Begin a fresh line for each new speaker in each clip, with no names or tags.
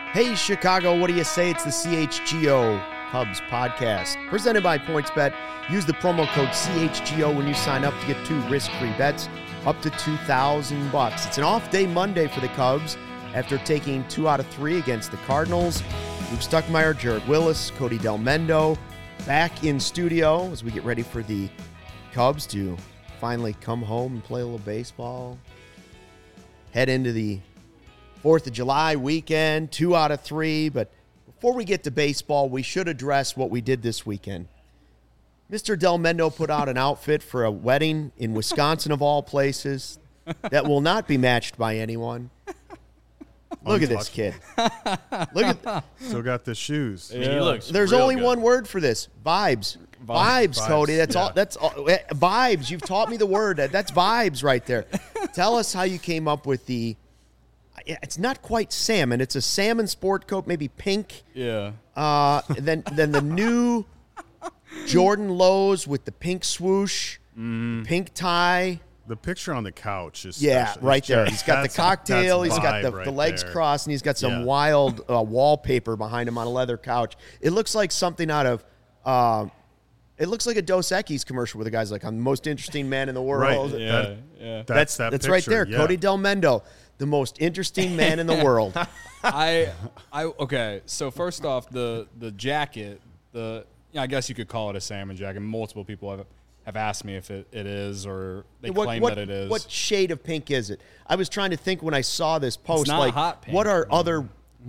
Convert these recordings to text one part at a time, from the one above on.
Hey, Chicago, what do you say? It's the CHGO Cubs podcast presented by PointsBet. Use the promo code CHGO when you sign up to get 2 risk-free bets up to $2,000. It's an off-day Monday for the Cubs after taking 2 out of 3 against the Cardinals. Luke Stuckmeyer, Jared Willis, Cody Delmendo back in studio as we get ready for the Cubs to finally come home and play a little baseball. Head into the 4th of July weekend, 2 out of 3. But before we get to baseball, we should address what we did this weekend. Mr. Delmendo put out an outfit for a wedding in Wisconsin, of all places, that will not be matched by anyone. Look at this kid. Look at
Still got the shoes.
Yeah. He looks
There's
real
only
good.
one word for this. Vibes. Vibes, Cody. That's all. That's all. Vibes. You've taught me the word. That's vibes right there. Tell us how you came up with the. It's not quite salmon. It's a salmon sport coat, maybe pink.
Yeah.
Then the new Jordan Lows with the pink swoosh, pink tie.
The picture on the couch is special.
Right there.
Just-
He's got the cocktail. He's got
vibe
the
right
legs
there.
crossed, and he's got some
Yeah.
wild wallpaper behind him on a leather couch. It looks like something out of. It looks like a Dos Equis commercial where the guy's like, "I'm the most interesting man in the world."
Right.
Yeah.
That's that
That's
picture.
right there.
Yeah.
Cody Delmendo, the most interesting man in the world.
Okay. So first off, the jacket, I guess you could call it a salmon jacket. Multiple people have asked me if it is, or they claim that it is.
What shade of pink is it? I was trying to think when I saw this post.
not
like,
hot pink.
what are other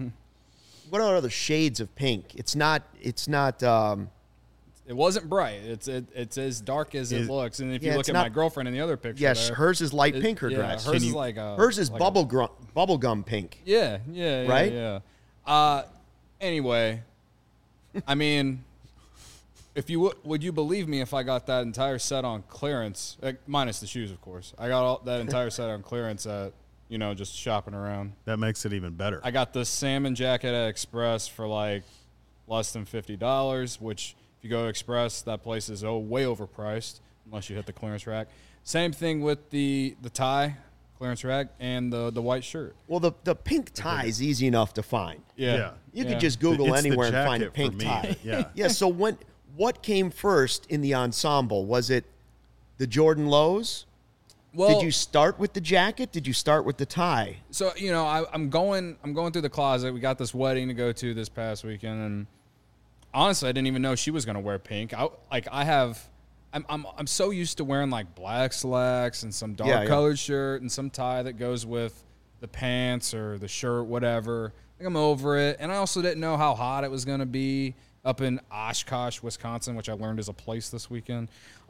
shades of pink? It's not.
It wasn't bright. It's as dark as it looks. And if you
Yeah,
look
it's
at
not-
my girlfriend in the other picture,
Yes,
there,
hers is light pink. Her dress.
hers is like a
hers is
like a-
bubblegum pink.
Yeah,
Right?
Yeah. Anyway, I mean, if you would you believe me if I got that entire set on clearance, minus the shoes, of course. I got that entire set on clearance at just shopping around.
That makes it even better.
I got the salmon jacket at Express for like less than $50, which if you go to Express, that place is way overpriced unless you hit the clearance rack. Same thing with the tie, clearance rack, and the white shirt.
Well, the pink tie is easy enough to find.
Yeah.
You could just Google
It's the
anywhere and find a
jacket
pink
for me.
tie.
Yeah.
Yeah. So what came first in the ensemble? Was it the Jordan Lows?
Well,
Did you start with the jacket? Did you start with the tie?
So I'm going through the closet. We got this wedding to go to this past weekend, and honestly, I didn't even know she was going to wear pink. I'm so used to wearing like black slacks and some dark colored shirt and some tie that goes with the pants or the shirt, whatever. I think I'm over it, and I also didn't know how hot it was going to be up in Oshkosh, Wisconsin, which I learned is a place this weekend.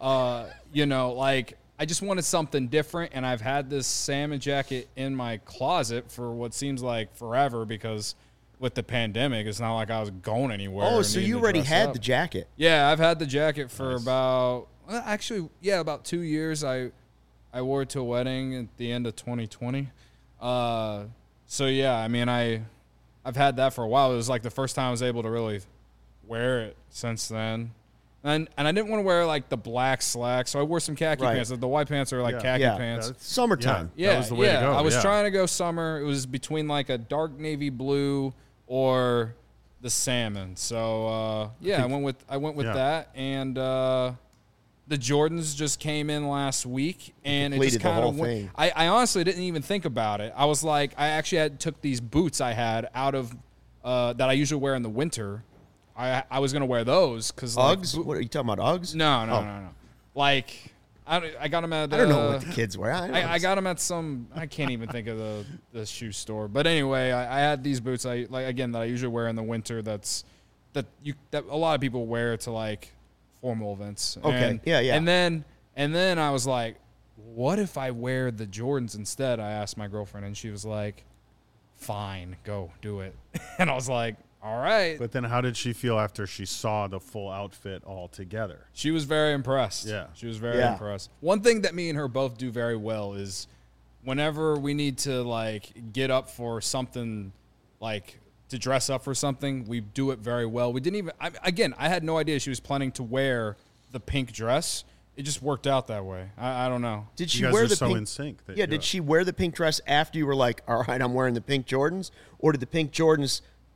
I just wanted something different, and I've had this salmon jacket in my closet for what seems like forever because with the pandemic, it's not like I was going anywhere.
Oh,
or
so
needing
you
to
already
dress
had
up.
the jacket.
Yeah, I've had the jacket for about 2 years. I wore it to a wedding at the end of 2020. So yeah, I mean, I've had that for a while. It was like the first time I was able to really wear it since then. And I didn't want to wear like the black slacks, so I wore some khaki
Right.
pants. The white pants are like khaki pants.
That's-
Summertime.
That was the way to go.
I was
yeah.
trying to go summer. It was between like a dark navy blue or the salmon. So I went with
Yeah.
that, and the Jordans just came in last week, and it
completed
just
the
kind
whole
of
thing.
I honestly didn't even think about it. I was like, I actually took these boots I had out of that I usually wear in the winter. I was gonna wear those because
Uggs? What are you talking about? Uggs?
No. Like I got them at.
I don't know what the kids wear.
I got them at some. I can't even think of the shoe store. But anyway, I had these boots. That I usually wear in the winter. That a lot of people wear to like formal events.
Okay.
And,
Yeah.
And then I was like, what if I wear the Jordans instead? I asked my girlfriend, and she was like, fine, go do it. And I was like, all right.
But then how did she feel after she saw the full outfit all together?
She was very impressed.
Yeah.
She was very impressed. One thing that me and her both do very well is whenever we need to like get up for something, like to dress up for something, we do it very well. We didn't even I had no idea she was planning to wear the pink dress. It just worked out that way. I don't know.
Did she
You guys
wear
are
the
so
pink?
in sync.
Did she wear the pink dress after you were like, all right, I'm wearing the pink Jordans? Or did the pink Jordans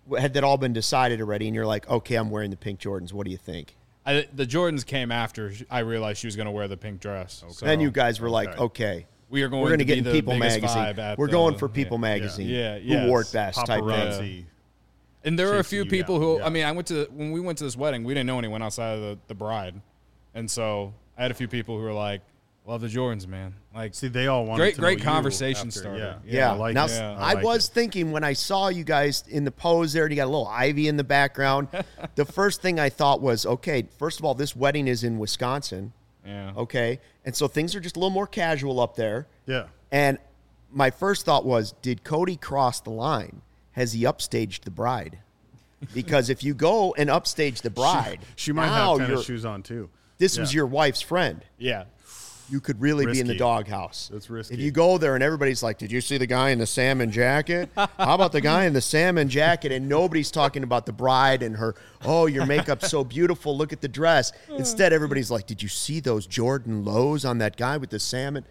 had that all been decided already? And you're like, okay, I'm wearing the pink Jordans. What do you think?
The Jordans came after I realized she was going to wear the pink dress.
Okay.
So
Then you guys were like, okay.
we are going
We're going to get
be
in
the
People
biggest
Magazine.
vibe at
We're
the-
going for People Magazine.
Yeah,
Who
yes.
wore it best type thing.
Paparazzi.
And there were a
chasing
few
you
people
down,
who,
yeah.
I mean, when we went to this wedding, we didn't know anyone outside of the bride. And so I had a few people who were like, love the Jordans, man. Like,
See, they all wanted to know
great
you
conversation
after,
starter.
Yeah.
I like
now,
it.
I
like
was
it.
thinking when I saw you guys in the pose there and you got a little ivy in the background, the first thing I thought was, okay, first of all, this wedding is in Wisconsin.
Yeah.
Okay. And so things are just a little more casual up there.
Yeah.
And my first thought was, did Cody cross the line? Has he upstaged the bride? Because if you go and upstage the bride,
She might
now
have tennis
you're-
shoes on too.
this was your wife's friend.
Yeah.
You could really be in the
Risky.
doghouse.
That's risky.
If you go there and everybody's like, did you see the guy in the salmon jacket? How about the guy in the salmon jacket? And nobody's talking about the bride and her, oh, your makeup's so beautiful. Look at the dress. Instead, everybody's like, did you see those Jordan lows on that guy with the salmon?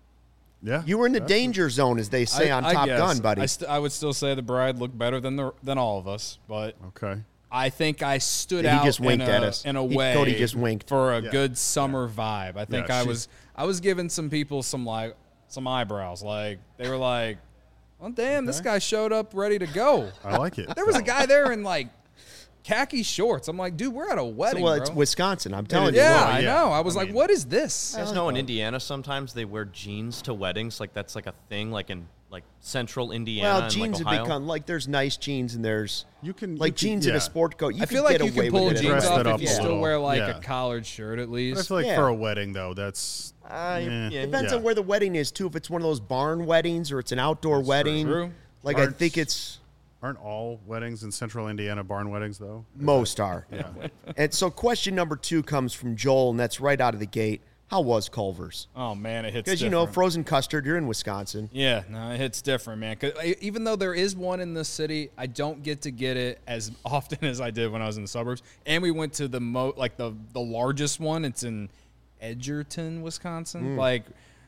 Yeah.
You were in the
That's
danger zone, as they say on Top
guess.
Gun, buddy.
I would still say the bride looked better than all of us, but
Okay.
I think I stood
He
out
just winked at us.
in a
He-
way.
Cody just winked.
for a
Yeah.
good summer vibe. I think
Yeah,
I was giving some people some eyebrows. Like they were like, "Well, damn, this guy showed up ready to go."
I like it.
There was a guy there in like khaki shorts. I'm like, dude, we're at a wedding,
Well,
bro.
it's Wisconsin. I'm telling you.
yeah,
Well,
I
yeah.
know. I was
I
like,
mean-
what is this?
You guys know in Indiana sometimes they wear jeans to weddings, like that's like a thing, like in like central Indiana.
Well,
and,
jeans
like,
have
Ohio.
become like there's nice jeans and there's
You can
like jeans in
yeah.
a sport coat. You
I feel
could
like
get
you
away
can pull
with it.
jeans
Dress
off
that
if
up
you
a
still
little.
wear like
Yeah.
a collared shirt at
But I
least.
feel like
Yeah.
for a wedding though, that's
Yeah.
Depends
Yeah.
on where the wedding is too. If it's one of those barn weddings or it's an outdoor wedding,
True.
like I
Aren't-
think it's
aren't all weddings in central Indiana barn weddings though?
most are. And so question number 2 comes from Joel, and that's right out of the gate. How was Culver's?
Oh man, it hits
Because
different.
frozen custard. You're in Wisconsin.
Yeah, no, it hits different, man. 'Cause even though there is one in the city, I don't get to get it as often as I did when I was in the suburbs. And we went to the the largest one. It's in Edgerton, Wisconsin. Like,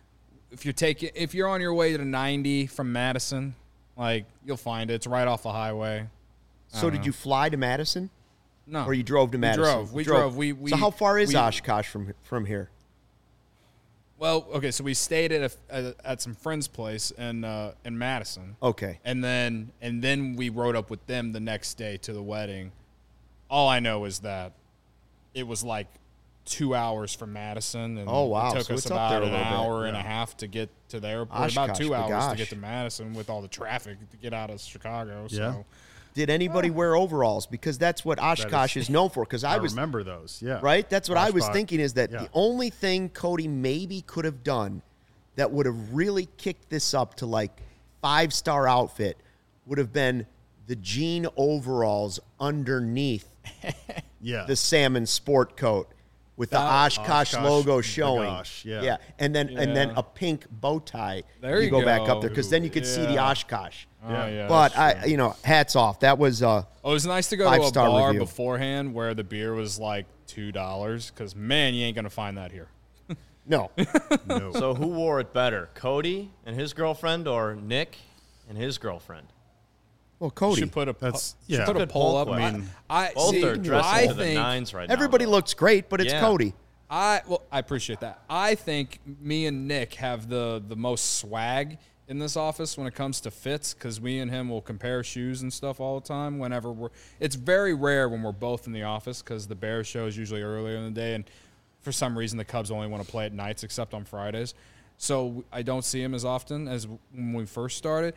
if you're on your way to 90 from Madison, like you'll find it. It's right off the highway.
So did you fly to Madison,
No,
or you drove to Madison?
We drove.
So how far is
we-
Oshkosh from here?
Well, okay, so we stayed at some friend's place in Madison.
Okay.
And then we rode up with them the next day to the wedding. All I know is that it was like 2 hours from Madison, and
Oh, wow.
it took
So
us
it's up there
about
a
an
little bit.
hour and a half to get to the airport. About
Oshkosh,
2 hours to
gosh.
get to Madison with all the traffic to get out of Chicago.
Yeah.
So
Did anybody wear overalls? Because that's what Oshkosh is known for. Because
I
I was
remember those. Yeah.
right. That's what I was
Oshkosh.
thinking. Is that
Yeah.
the only thing Cody maybe could have done that would have really kicked this up to like 5-star outfit would have been the jean overalls underneath
Yeah.
the salmon sport coat with the Oshkosh
Oshkosh
logo
with the
showing.
gosh, yeah.
and then
Yeah.
a pink bow tie.
There you
go back up
go.
there because then you could see the
Yeah.
Oshkosh.
Yeah.
yeah.
But
that's true.
hats off. That was
Oh, it was nice to go to a
5-star
bar
review.
beforehand where the beer was like $2. Because man, you ain't gonna find that here.
no.
No.
So who wore it better, Cody and his girlfriend, or Nick and his girlfriend?
Well, Cody.
Should put a
That's-
should
yeah.
put a
Good
poll
poll
up.
question.
I
Both
see,
are dressing
I
to the
think
nines right now.
Everybody
though.
looks great, but it's
Yeah.
Cody.
I appreciate that. I think me and Nick have the most swag in this office when it comes to fits because we and him will compare shoes and stuff all the time. It's very rare when we're both in the office because the Bears show is usually earlier in the day, and for some reason the Cubs only want to play at nights except on Fridays. So I don't see him as often as when we first started.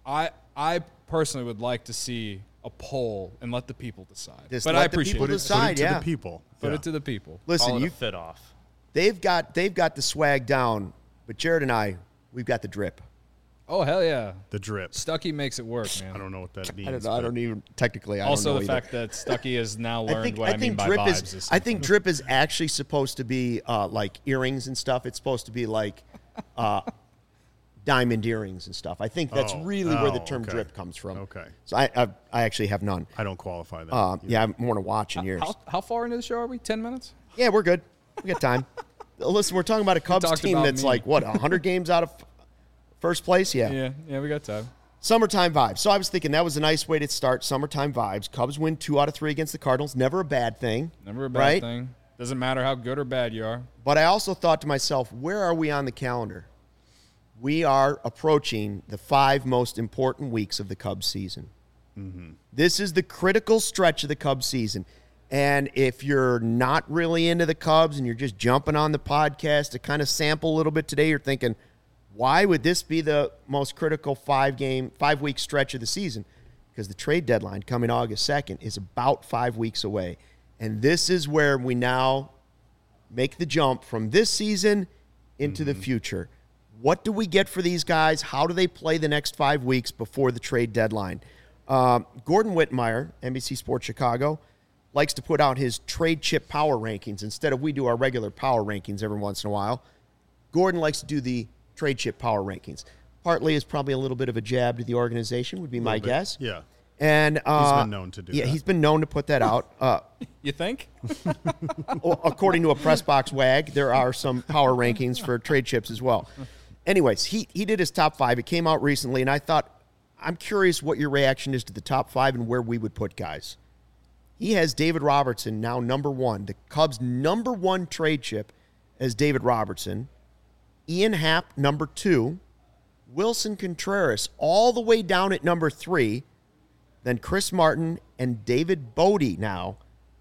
I personally would like to see a poll and let the people decide.
Just
but
let
I
the
appreciate
people
it.
decide.
Put it to
yeah.
the people.
Put
Yeah.
it to the people.
Listen,
Call it
you
a fit off.
they've got the swag down, but Jared and I, we've got the drip.
Oh hell yeah!
The drip.
Stucky makes it work, man.
I don't know what that means.
I don't know. I don't even technically. I
Also,
don't know
the
either.
fact that Stucky has now
I
learned
think
what I, mean by
drip
vibes.
is. I think drip is actually supposed to be like earrings and stuff. It's supposed to be like diamond earrings and stuff. I think that's
Oh.
really where the
Oh,
term
okay.
drip comes from.
Okay.
So I actually have none.
I don't qualify that.
Yeah, I'm more to watch in years.
how far into the show are we? 10 minutes?
Yeah, we're good. We got time. Listen, we're talking about a Cubs
talked
team
about
that's
me.
like what 100 games out of first place. Yeah.
Yeah, we got time.
Summertime vibes. So I was thinking that was a nice way to start summertime vibes. Cubs win 2 out of 3 against the Cardinals. Never a bad thing.
Never a bad
right?
thing. Doesn't matter how good or bad you are.
But I also thought to myself, where are we on the calendar? We are approaching the 5 most important weeks of the Cubs season. Mm-hmm. This is the critical stretch of the Cubs season. And if you're not really into the Cubs and you're just jumping on the podcast to kind of sample a little bit today, you're thinking, why would this be the most critical 5-week stretch of the season? Because the trade deadline coming August 2nd is about 5 weeks away. And this is where we now make the jump from this season into the future. What do we get for these guys? How do they play the next 5 weeks before the trade deadline? Gordon Whitmire, NBC Sports Chicago, likes to put out his trade chip power rankings. Instead of we do our regular power rankings every once in a while, Gordon likes to do the trade chip power rankings. Partly is probably a little bit of a jab to the organization, would be my guess.
Yeah.
And
he's been known to do that.
Yeah, he's been known to put that out.
You think?
According to a press box wag, there are some power rankings for trade chips as well. Anyways, he did his top 5. It came out recently, and I thought, I'm curious what your reaction is to the top 5 and where we would put guys. He has David Robertson now number 1. The Cubs' number 1 trade chip as David Robertson. Ian Happ, number 2. Wilson Contreras all the way down at number 3. Then Chris Martin and David Bodie now,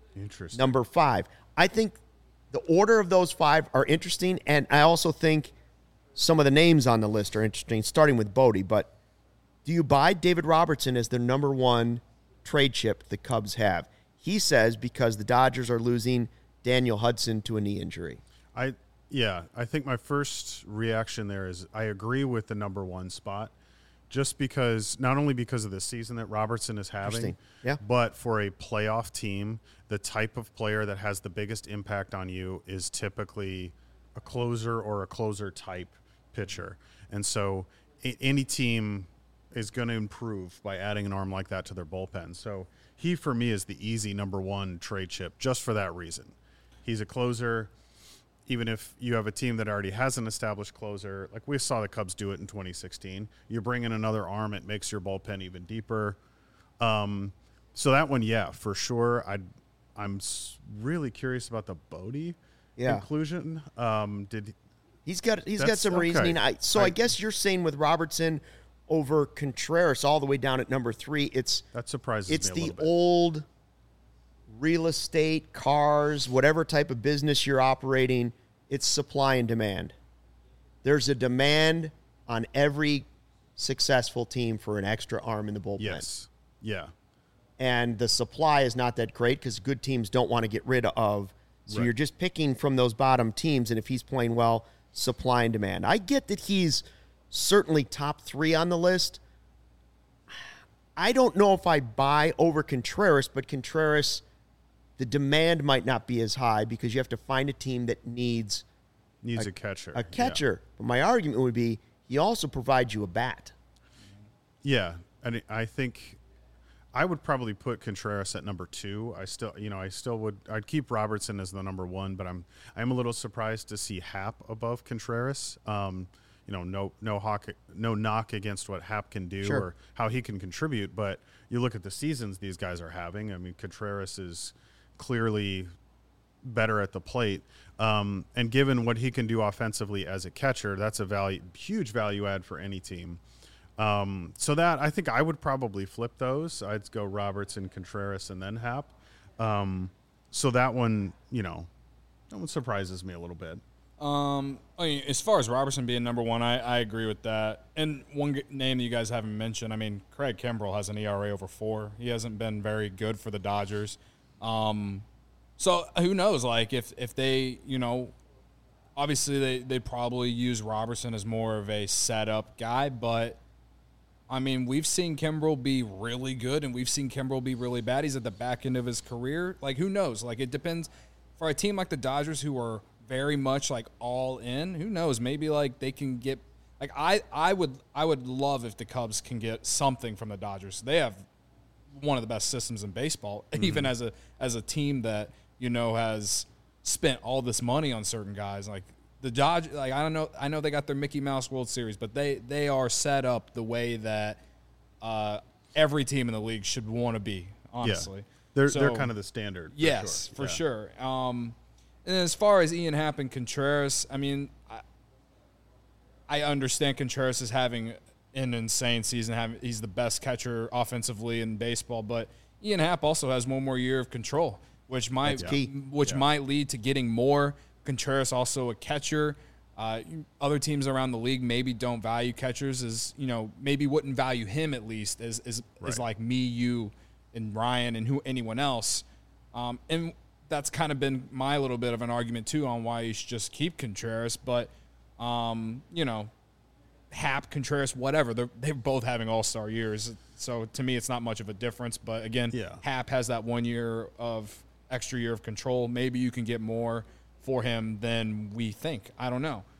number 5. I think the order of those 5 are interesting, and I also think some of the names on the list are interesting, starting with Bodie. But do you buy David Robertson as the number 1 trade chip the Cubs have? He says because the Dodgers are losing Daniel Hudson to a knee injury.
I think my first reaction there is I agree with the number 1 spot. Just because, not only because of the season that Robertson is having, but for a playoff team, the type of player that has the biggest impact on you is typically a closer or a closer type pitcher. And so any team is going to improve by adding an arm like that to their bullpen. So he, for me, is the easy number 1 trade chip just for that reason. He's a closer. Even if you have a team that already has an established closer, like we saw the Cubs do it in 2016, you bring in another arm, it makes your bullpen even deeper. So that one, yeah, for sure. I'm really curious about the Bodie inclusion.
He's got some reasoning. I guess you're saying with Robertson over Contreras all the way down at number 3,
that surprises me a little bit.
It's the old real estate, cars, whatever type of business you're operating, it's supply and demand. There's a demand on every successful team for an extra arm in the bullpen.
Yes. Yeah.
And the supply is not that great because good teams don't want to get rid of. So you're just picking from those bottom teams, and if he's playing well, supply and demand. I get that he's certainly top 3 on the list. I don't know if I buy over Contreras, but Contreras, the demand might not be as high because you have to find a team that needs
a catcher.
A catcher. Yeah. But my argument would be he also provides you a bat. Yeah,
and I think I would probably put Contreras at number 2. I'd keep Robertson as the number 1, but I'm a little surprised to see Happ above Contreras. No knock against what Happ can do or how he can contribute, but you look at the seasons these guys are having. I mean, Contreras is clearly better at the plate. And given what he can do offensively as a catcher, that's a huge value add for any team. So that I think I would probably flip those. I'd go Robertson, Contreras, and then Happ. So that one surprises me a little bit.
As far as Robertson being number 1, I agree with that. And one name that you guys haven't mentioned, I mean, Craig Kimbrell has an ERA over 4. He hasn't been very good for the Dodgers. So who knows? Like if they, obviously they probably use Robertson as more of a setup guy, but I mean, we've seen Kimbrell be really good and we've seen Kimbrell be really bad. He's at the back end of his career. Like, who knows? Like, it depends. For a team like the Dodgers who are very much like all in, who knows? Maybe like they can get like I would love if the Cubs can get something from the Dodgers. They have one of the best systems in baseball, even as a team that has spent all this money on certain guys. Like the Dodgers, like I know they got their Mickey Mouse World Series, but they are set up the way that every team in the league should want to be, honestly.
Yeah. They're kind of the standard.
Yes, for sure. And as far as Ian Happ and Contreras, I mean, I understand Contreras is having an insane season. He's the best catcher offensively in baseball, but Ian Happ also has one more year of control, which might lead to getting more. Contreras also a catcher. Other teams around the league maybe don't value catchers as, maybe wouldn't value him at least as like me, you, and Ryan and anyone else. And that's kind of been my little bit of an argument too on why you should just keep Contreras. But, Happ, Contreras, whatever, they're both having all-star years. So to me, it's not much of a difference. But again, Happ has that 1 year of extra year of control. Maybe you can get more for him than we think. I don't know.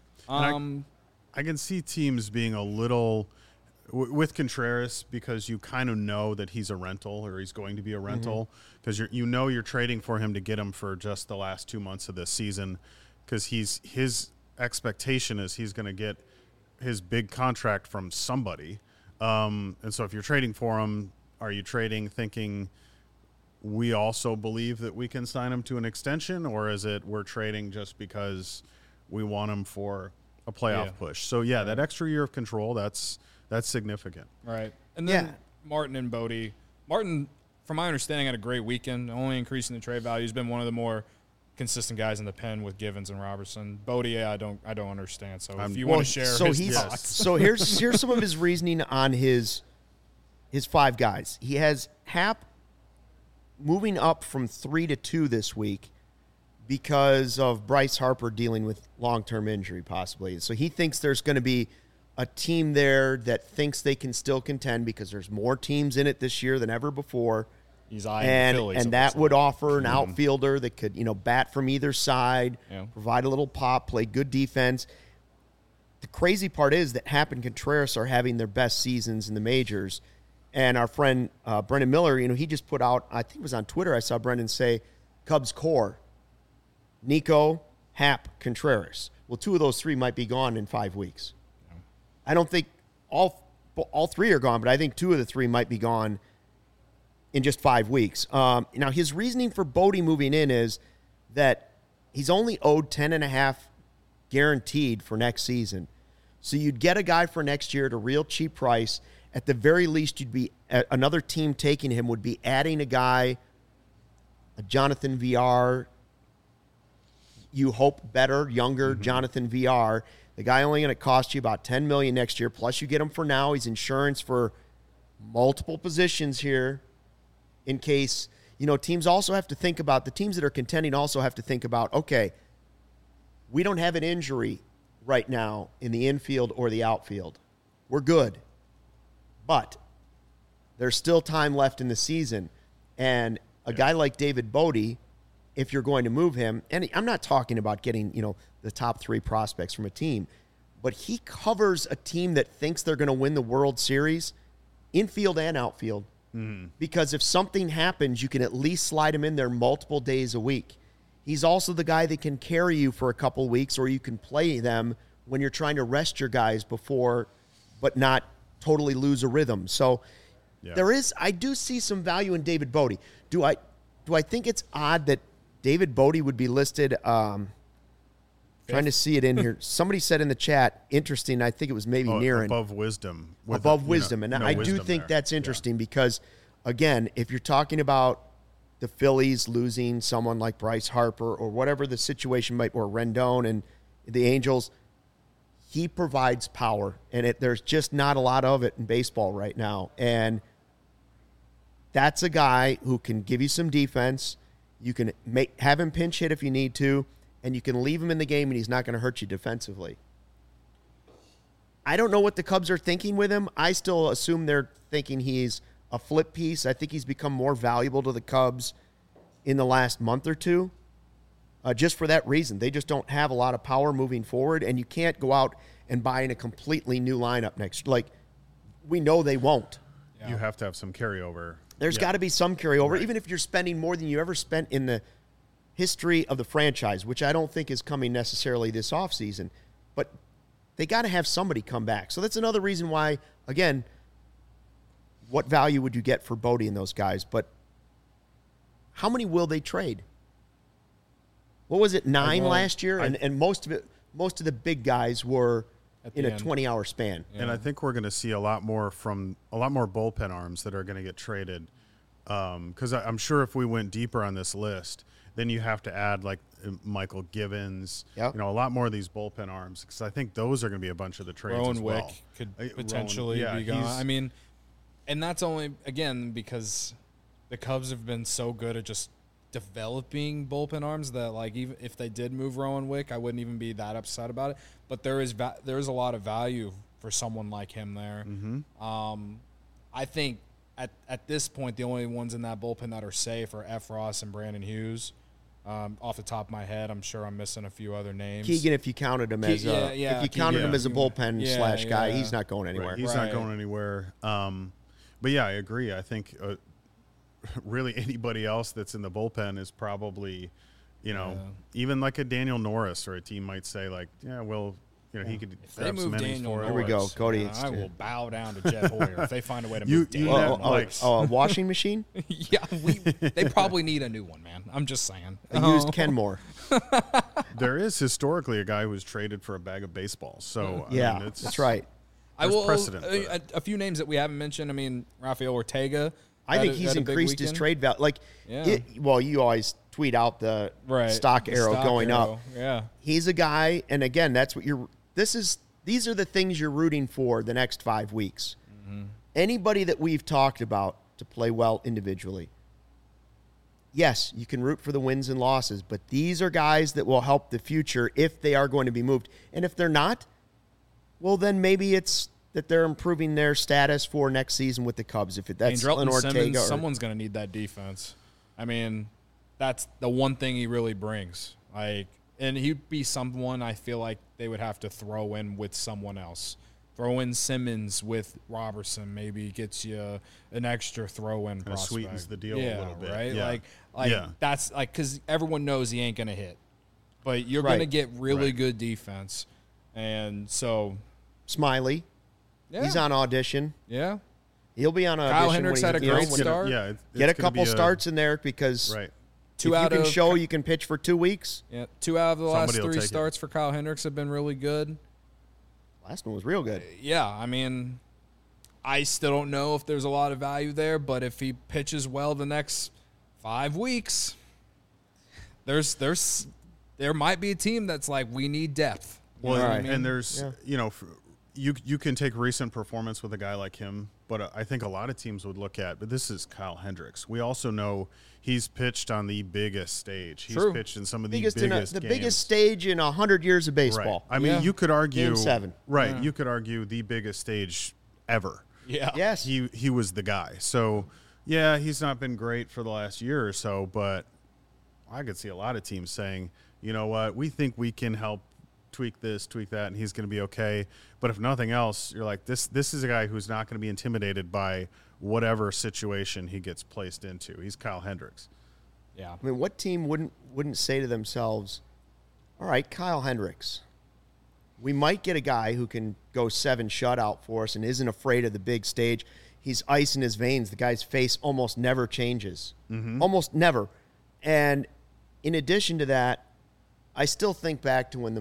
I can see teams being a little with Contreras because you kind of know that he's a rental or he's going to be a rental because you're trading for him to get him for just the last 2 months of this season because his expectation is he's going to get his big contract from somebody. And so if you're trading for him, are you trading thinking we also believe that we can sign him to an extension, or is it we're trading just because we want him for a playoff push? So that extra year of control, that's significant.
Right. And then Martin and Bodie. Martin, from my understanding, had a great weekend, only increasing the trade value. He's been one of the more consistent guys in the pen with Givens and Robertson. Bodie, I don't understand. So if you want to share his thoughts.
So here's some of his reasoning on his 5 guys. He has Happ moving up from 3 to 2 this week because of Bryce Harper dealing with long-term injury possibly. So he thinks there's going to be a team there that thinks they can still contend because there's more teams in it this year than ever before.
He's eyeing the Phillies,
and that would offer an outfielder that could, bat from either side, provide a little pop, play good defense. The crazy part is that Happ and Contreras are having their best seasons in the majors. And our friend Brendan Miller, he just put out, I think it was on Twitter, I saw Brendan say, Cubs core, Nico, Happ, Contreras. Well, 2 of those 3 might be gone in 5 weeks. Yeah. I don't think all 3 are gone, but I think 2 of the 3 might be gone in just 5 weeks. Now, his reasoning for Bodie moving in is that he's only owed $10.5 guaranteed for next season. So you'd get a guy for next year at a real cheap price. At the very least, another team taking him would be adding a guy, a Jonathan VR, you hope better, younger Jonathan VR. The guy only going to cost you about $10 million next year. Plus, you get him for now. He's insurance for multiple positions here in case, teams also have to think about, the teams that are contending also have to think about, okay, we don't have an injury right now in the infield or the outfield. We're good. But there's still time left in the season. And a guy like David Bodie, if you're going to move him, and I'm not talking about getting, the top 3 prospects from a team, but he covers a team that thinks they're going to win the World Series, infield and outfield. Because if something happens, you can at least slide him in there multiple days a week. He's also the guy that can carry you for a couple weeks, or you can play them when you're trying to rest your guys before, but not totally lose a rhythm. So I do see some value in David Bodie. Do I think it's odd that David Bodie would be listed? Trying to see it in here. Somebody said in the chat, interesting. I think it was maybe Niren.
Above Wisdom.
Wisdom. And I do think that's interesting because, again, if you're talking about the Phillies losing someone like Bryce Harper or whatever the situation might, or Rendon and the Angels, he provides power, and there's just not a lot of it in baseball right now. And that's a guy who can give you some defense. You can have him pinch hit if you need to, and you can leave him in the game, and he's not going to hurt you defensively. I don't know what the Cubs are thinking with him. I still assume they're thinking he's a flip piece. I think he's become more valuable to the Cubs in the last month or two. Just for that reason. They just don't have a lot of power moving forward, and you can't go out and buy in a completely new lineup next. Like, we know they won't.
You have to have some carryover.
There's got to be some carryover, even if you're spending more than you ever spent in the history of the franchise, which I don't think is coming necessarily this offseason. But they got to have somebody come back. So that's another reason why, again, what value would you get for Bodie and those guys? But how many will they trade? What was it, 9 last year? And most of the big guys were in a 20-hour span.
Yeah. And I think we're going to see a lot more bullpen arms that are going to get traded. Because I'm sure if we went deeper on this list, then you have to add like Michael Givens, a lot more of these bullpen arms. Because I think those are going to be a bunch of the trades
Rowan
as well.
Wick could potentially be gone. I mean, and that's only, again, because the Cubs have been so good at just developing bullpen arms that, like, even if they did move Rowan Wick, I wouldn't even be that upset about it. But there is a lot of value for someone like him there.
Mm-hmm.
I think at this point, the only ones in that bullpen that are safe are F. Ross and Brandon Hughes. Off the top of my head, I'm sure I'm missing a few other names.
Keegan, if you counted him as if you counted him as a bullpen slash guy, he's not going anywhere.
Right. He's not going anywhere. But yeah, I agree. I think really anybody else that's in the bullpen is probably, even like a Daniel Norris, or a team might say like, he could grab some innings for it.
Here we go, Cody.
I will bow down to Jeff Hoyer if they find a way to move Daniel Norris.
A washing machine?
Yeah, they probably need a new one, man. I'm just saying.
I used Kenmore.
There is historically a guy who was traded for a bag of baseballs. So
that's right.
There's precedent.
A few names that we haven't mentioned. I mean, Rafael Ortega.
I think he's increased his trade value. Like, you always tweet out the stock arrow going up.
Yeah,
he's a guy, and again, that's what these are the things you're rooting for the next 5 weeks.
Mm-hmm.
Anybody that we've talked about to play well individually. Yes, you can root for the wins and losses, but these are guys that will help the future if they are going to be moved. And if they're not, well, then maybe it's that they're improving their status for next season with the Cubs. If that's
Ortega, Simmons, someone's going to need that defense. I mean, that's the one thing he really brings. And he'd be someone I feel like they would have to throw in with someone else. Throw in Simmons with Robertson, maybe gets you an extra throw-in prospect.
Sweetens the deal a little bit.
Right? Yeah. That's like, because everyone knows he ain't going to hit. But you're going to get really good defense. And so.
Smiley. Yeah. He's on audition.
Yeah.
He'll be on audition.
Kyle Hendricks had a great start.
Get a couple starts in there because if you can show you can pitch for 2 weeks.
Yeah, 2 out of the last 3 starts for Kyle Hendricks have been really good.
Last one was real good.
Yeah, I mean, I still don't know if there's a lot of value there, but if he pitches well the next 5 weeks, there might be a team that's like, we need depth.
Well, and there's you can take recent performance with a guy like him, but I think a lot of teams would look at, but this is Kyle Hendricks. We also know he's pitched on the biggest stage. He's pitched in some of the biggest games.
Biggest stage in 100 years of baseball.
Right. I mean, you could argue
Game 7.
Right. Yeah. You could argue the biggest stage ever.
Yeah.
Yes.
He was the guy. So, yeah, he's not been great for the last year or so, but I could see a lot of teams saying, you know what, we think we can help tweak this, tweak that, and he's going to be okay. But if nothing else, you're like, this is a guy who's not going to be intimidated by whatever situation he gets placed into. He's Kyle Hendricks.
Yeah.
I mean, what team wouldn't say to themselves, all right, Kyle Hendricks, we might get a guy who can go 7 shutout for us and isn't afraid of the big stage. He's ice in his veins. The guy's face almost never changes.
Mm-hmm.
Almost never. And in addition to that, I still think back to when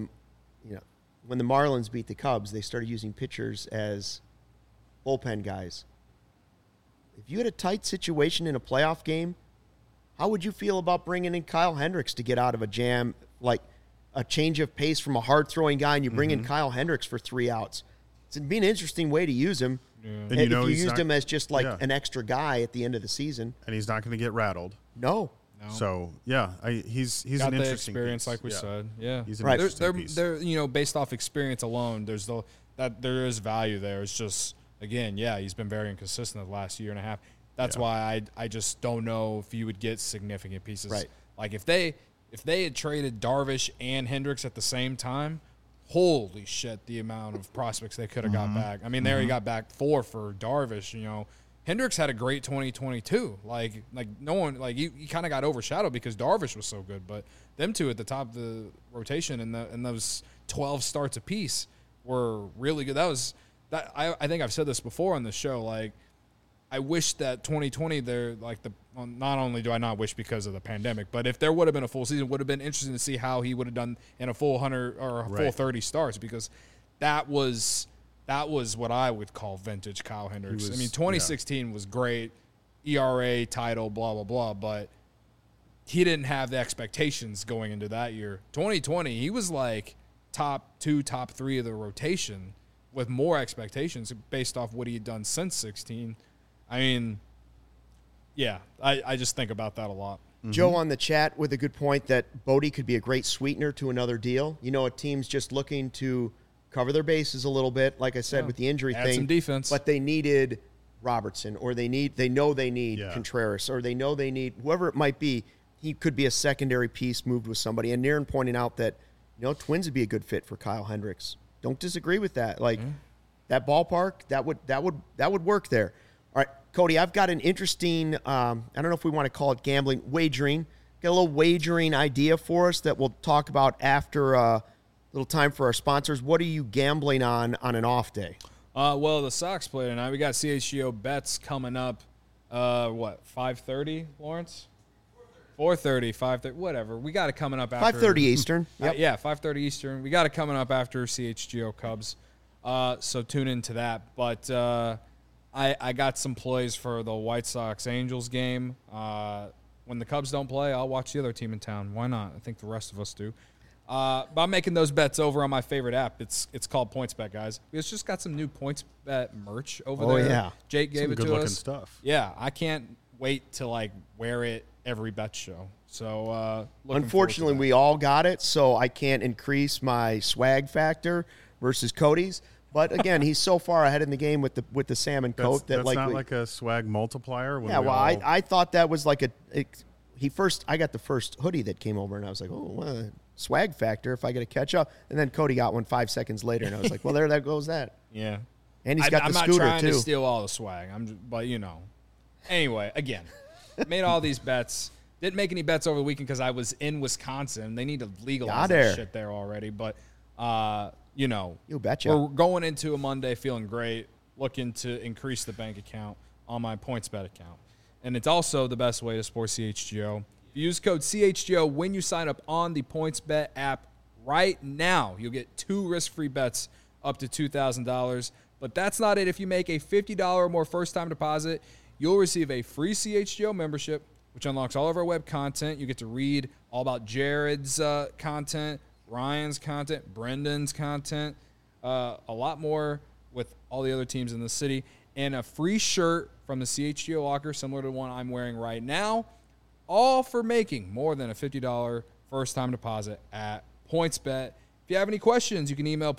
the Marlins beat the Cubs, they started using pitchers as bullpen guys. If you had a tight situation in a playoff game, how would you feel about bringing in Kyle Hendricks to get out of a jam, like a change of pace from a hard-throwing guy, and you bring in Kyle Hendricks for 3 outs? It'd be an interesting way to use him.
Yeah. And
if you used him as just like an extra guy at the end of the season.
And he's not going to get rattled.
No.
So he's
got
an interesting
experience,
piece.
like we said. Yeah,
he's an interesting piece.
They're based off experience alone. There is value there. It's just, again, he's been very inconsistent the last year and a half. That's why I just don't know if you would get significant pieces.
Right.
Like if they had traded Darvish and Hendricks at the same time, holy shit, the amount of prospects they could have got back. I mean, they already got back 4 for Darvish. Hendricks had a great 2022. Like no one, like he kind of got overshadowed because Darvish was so good. But them two at the top of the rotation and those 12 starts apiece were really good. I think I've said this before on the show. Like I wish that 2020, they're like not only do I not wish because of the pandemic, but if there would have been a full season, it would have been interesting to see how he would have done in a full 100 or a full 30 starts, because that was what I would call vintage Kyle Hendricks. 2016 was great, ERA, title, blah, blah, blah, but he didn't have the expectations going into that year. 2020, he was like top 2, top 3 of the rotation with more expectations based off what he had done since 16. I mean, yeah, I just think about that a lot.
Mm-hmm. Joe on the chat with a good point that Bodie could be a great sweetener to another deal. You know, a team's just looking to cover their bases a little bit, like I said, with the injury
Add
thing.
some defense.
But they needed Robertson, or they know they need Contreras, or they know they need whoever it might be. He could be a secondary piece moved with somebody. And Niren pointing out that, Twins would be a good fit for Kyle Hendricks. Don't disagree with that. Like that ballpark, that would work there. All right, Cody, I've got an interesting, I don't know if we want to call it gambling, wagering. Got a little wagering idea for us that we'll talk about after a little time for our sponsors. What are you gambling on an off day?
Well, the Sox play tonight. We got CHGO bets coming up, 5:30, Lawrence? 4:30, 5:30, whatever. We got it coming up after.
5:30 Eastern.
Yep. Yeah, 5:30 Eastern. We got it coming up after CHGO Cubs. So tune into that. But I got some plays for the White Sox-Angels game. When the Cubs don't play, I'll watch the other team in town. Why not? I think the rest of us do. But I'm making those bets over on my favorite app. It's called PointsBet, guys. It's just got some new PointsBet merch over there.
Oh, yeah.
Jake gave
some
it to us.
good-looking stuff.
Yeah, I can't wait to, wear it every bet show. So,
unfortunately, we all got it, so I can't increase my swag factor versus Cody's. But again, he's so far ahead in the game with the salmon coat
that's not like a swag multiplier.
I thought that was like I got the first hoodie that came over, and I was like, swag factor if I get to catch up. And then Cody got one 5 seconds later, and I was like, well, there goes that.
Yeah.
And he's got the scooter, too.
I'm not trying to steal all the swag. But Anyway, again, made all these bets. Didn't make any bets over the weekend because I was in Wisconsin. They need to legalize that shit there already. But,
you betcha.
We're going into a Monday feeling great, looking to increase the bank account on my PointsBet account. And it's also the best way to support CHGO. If you use code CHGO when you sign up on the PointsBet app right now, you'll get 2 risk-free bets up to $2,000. But that's not it. If you make a $50 or more first-time deposit, you'll receive a free CHGO membership, which unlocks all of our web content. You get to read all about Jared's content, Ryan's content, Brendan's content, a lot more with all the other teams in the city, and a free shirt from the CHGO locker, similar to the one I'm wearing right now, all for making more than a $50 first-time deposit at PointsBet. If you have any questions, you can email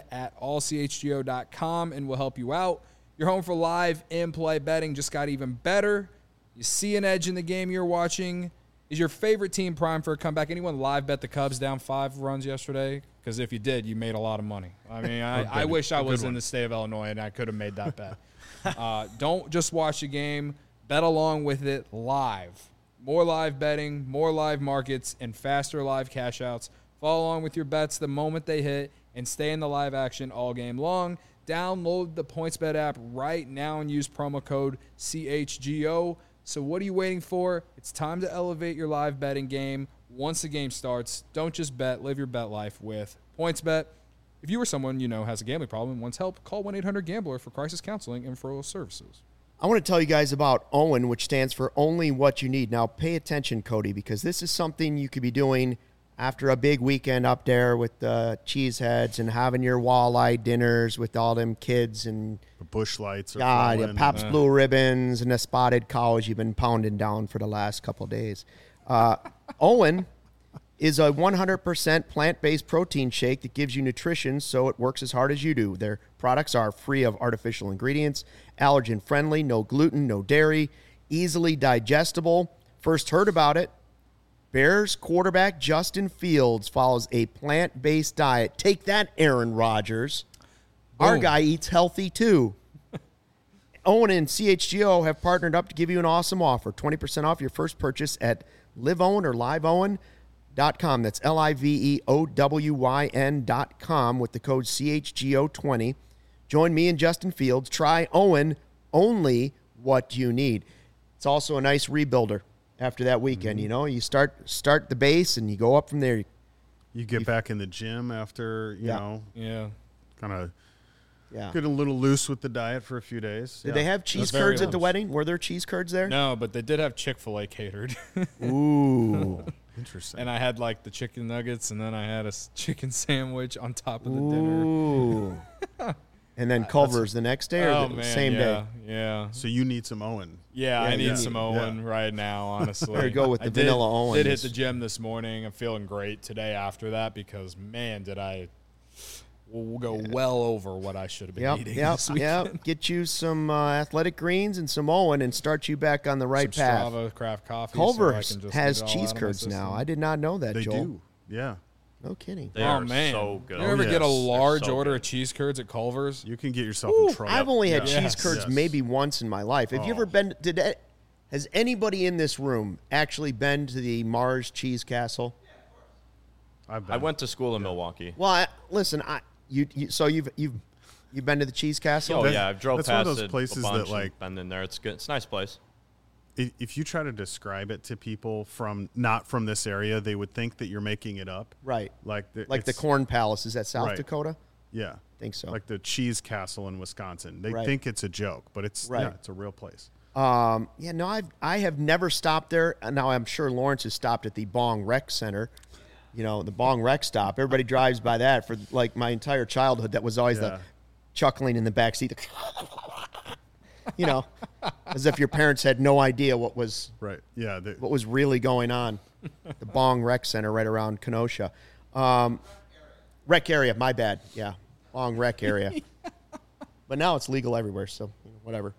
pointsbet@allchgo.com, and we'll help you out. Your home for live in-play betting just got even better. You see an edge in the game you're watching. Is your favorite team primed for a comeback? Anyone live bet the Cubs down 5 runs yesterday? Because if you did, you made a lot of money. I mean, I wish I was in the state of Illinois and I could have made that bet. Don't just watch the game. Bet along with it live. More live betting, more live markets, and faster live cash outs. Follow along with your bets the moment they hit and stay in the live action all game long. Download the PointsBet app right now and use promo code CHGO. So what are you waiting for? It's time to elevate your live betting game once the game starts. Don't just bet. Live your bet life with PointsBet. If you or someone you know has a gambling problem and wants help, call 1-800-GAMBLER for crisis counseling and referral services.
I want to tell you guys about OWYN, which stands for Only What You Need. Now, pay attention, Cody, because this is something you could be doing after a big weekend up there with the cheeseheads and having your walleye dinners with all them kids and
the bush lights.
Pabst Blue Ribbons and the spotted cows you've been pounding down for the last couple of days. OWYN is a 100% plant-based protein shake that gives you nutrition so it works as hard as you do. Their products are free of artificial ingredients, allergen-friendly, no gluten, no dairy, easily digestible. First heard about it. Bears quarterback Justin Fields follows a plant-based diet. Take that, Aaron Rodgers. Boom. Our guy eats healthy, too. OWYN and CHGO have partnered up to give you an awesome offer. 20% off your first purchase at LiveOWYN or LiveOWYN.com. That's LiveOWYN.com with the code CHGO20. Join me and Justin Fields. Try OWYN only what you need. It's also a nice rebuilder after that weekend. You know, you start the base and you go up from there.
You get back in the gym after, you know, kind of get a little loose with the diet for a few days.
Did they have cheese curds at the wedding? Were there cheese curds there?
No, but they did have Chick-fil-A catered.
Ooh.
Interesting.
And I had like the chicken nuggets, and then I had a chicken sandwich on top of the dinner.
Ooh. And then Culver's the next day or the same day?
Yeah.
So you need some Owen.
Yeah, I need some Owen right now, honestly.
There you go with the vanilla Owen.
I did hit the gym this morning. I'm feeling great today after that because, man, did I go well over what I should have been eating this weekend.
Yep. Get you some Athletic Greens and some Owen and start you back on the right path.
Strava craft coffee.
Culver's has cheese curds now. I did not know that,
Joel.
They
do. Yeah.
No kidding.
They are so good.
You ever get a large order of cheese curds at Culver's?
You can get yourself in trouble.
I've only had cheese curds maybe once in my life. Have you ever been has anybody in this room actually been to the Mars Cheese Castle?
I went to school in Milwaukee.
Well, listen, so you've been to the Cheese Castle?
Oh yeah, I've drove past
one of those places
a bunch
that like
been in there. It's good. It's a nice place.
If you try to describe it to people not from this area, they would think that you're making it up.
Right.
Like
the Corn Palace. Is that South Dakota?
Yeah.
I think so.
Like the Cheese Castle in Wisconsin. They think it's a joke, but it's it's a real place.
I have never stopped there. Now I'm sure Lawrence has stopped at the Bong Rec Center. You know, the Bong Rec stop. Everybody drives by that for like my entire childhood. That was always the chuckling in the back seat. You know, as if your parents had no idea what was what was really going on. The Bong Rec Center right around Kenosha. Rec area, my bad. Yeah, Bong Rec area. But now it's legal everywhere, so whatever.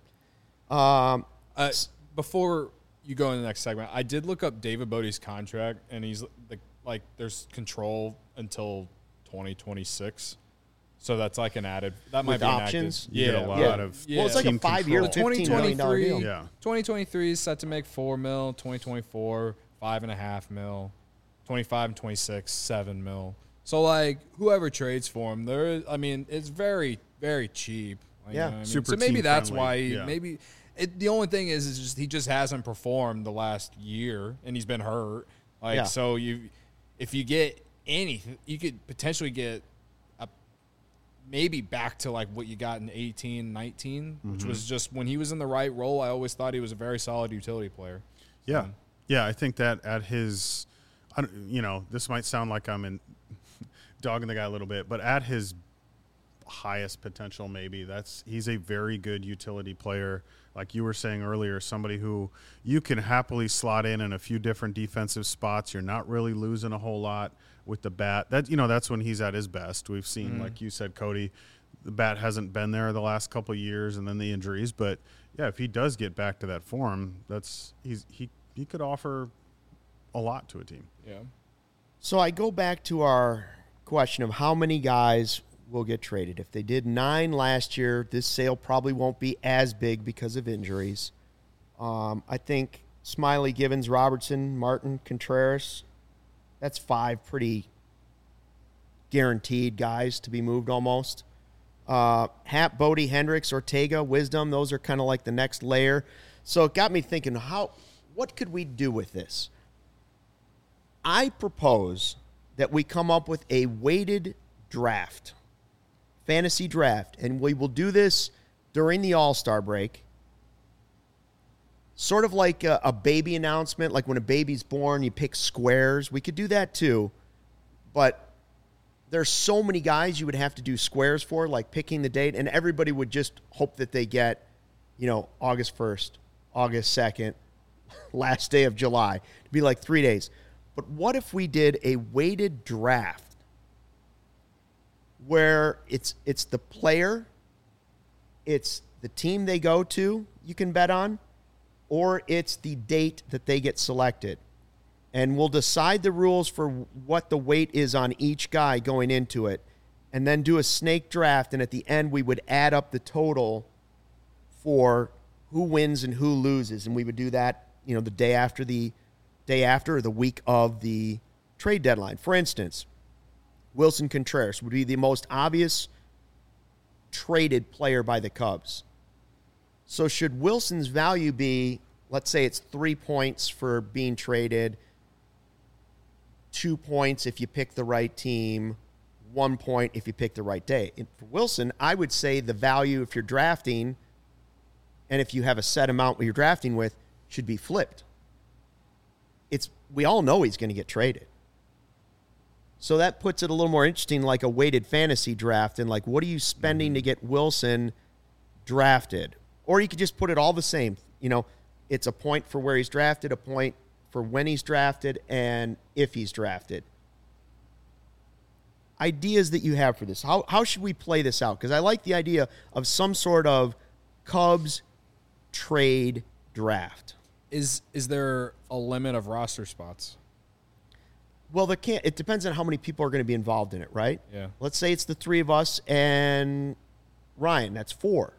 Before you go in the next segment, I did look up David Bodie's contract, and he's like there's control until 2026. So that's like an added. That might be
options.
You get a lot of.
Well, it's like a 5-year, $15 million deal.
Yeah. 2023 is set to make $4 million. 2024, $5.5 million. 25 and 26, $7 million. So like whoever trades for him, it's very, very cheap. You know what I mean?
Super.
So maybe that's
friendly.
why the only thing is just he just hasn't performed the last year, and he's been hurt. So if you get anything, you could potentially get maybe back to like what you got in 18, 19, which was just when he was in the right role. I always thought he was a very solid utility player.
Yeah. I think that at his, this might sound like I'm dogging the guy a little bit, but at his highest potential, maybe he's a very good utility player. Like you were saying earlier, somebody who you can happily slot in a few different defensive spots. You're not really losing a whole lot with the bat. That's when he's at his best. We've seen, like you said, Cody, the bat hasn't been there the last couple of years, and then the injuries. But yeah, if he does get back to that form, he could offer a lot to a team.
Yeah.
So I go back to our question of how many guys will get traded. If they did 9 last year, this sale probably won't be as big because of injuries. I think Smiley, Givens, Robertson, Martin, Contreras, that's 5 pretty guaranteed guys to be moved almost. Happ, Bodie, Hendricks, Ortega, Wisdom, those are kind of like the next layer. So it got me thinking, what could we do with this? I propose that we come up with a weighted draft, fantasy draft, and we will do this during the All-Star break. Sort of like a baby announcement, like when a baby's born, you pick squares. We could do that too, but there's so many guys you would have to do squares for, like picking the date, and everybody would just hope that they get, August 1st, August 2nd, last day of July. It'd be like 3 days. But what if we did a weighted draft where it's the player, it's the team they go to, you can bet on, or it's the date that they get selected. And we'll decide the rules for what the weight is on each guy going into it, and then do a snake draft, and at the end we would add up the total for who wins and who loses, and we would do that, the day after or the week of the trade deadline. For instance, Wilson Contreras would be the most obvious traded player by the Cubs. So should Wilson's value be, let's say it's 3 points for being traded, 2 points if you pick the right team, 1 point if you pick the right day? And for Wilson, I would say the value if you're drafting and if you have a set amount you're drafting with should be flipped. We all know he's going to get traded. So that puts it a little more interesting, like a weighted fantasy draft, and like, what are you spending to get Wilson drafted? Or you could just put it all the same. You know, it's a point for where he's drafted, a point for when he's drafted, and if he's drafted. Ideas that you have for this. How should we play this out? Because I like the idea of some sort of Cubs trade draft.
Is there a limit of roster spots?
Well, it depends on how many people are going to be involved in it, right?
Yeah.
Let's say it's the three of us and Ryan. That's 4.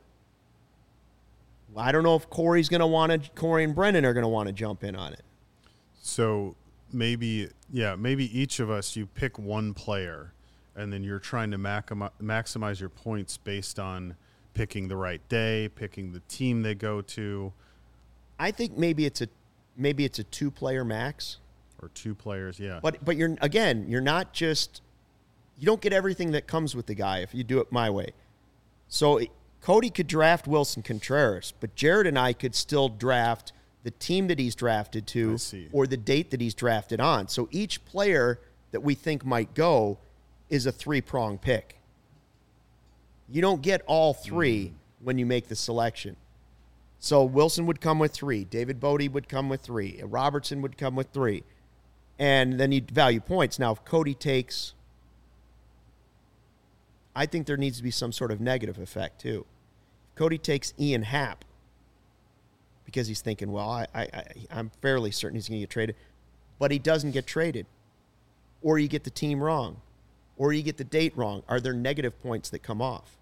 I don't know if Corey and Brennan are going to want to jump in on it.
So maybe each of us, you pick one player, and then you're trying to maximize your points based on picking the right day, picking the team they go to.
I think maybe it's a 2-player max.
Or 2 players, yeah.
But you're not just, you don't get everything that comes with the guy if you do it my way. So Cody could draft Wilson Contreras, but Jared and I could still draft the team that he's drafted to or the date that he's drafted on. So each player that we think might go is a 3-prong pick. You don't get all 3 when you make the selection. So Wilson would come with 3. David Bodie would come with 3. Robertson would come with 3. And then you'd value points. Now, if Cody takes, I think there needs to be some sort of negative effect, too. If Cody takes Ian Happ, because he's thinking, well, I'm fairly certain he's going to get traded, but he doesn't get traded, or you get the team wrong, or you get the date wrong, are there negative points that come off?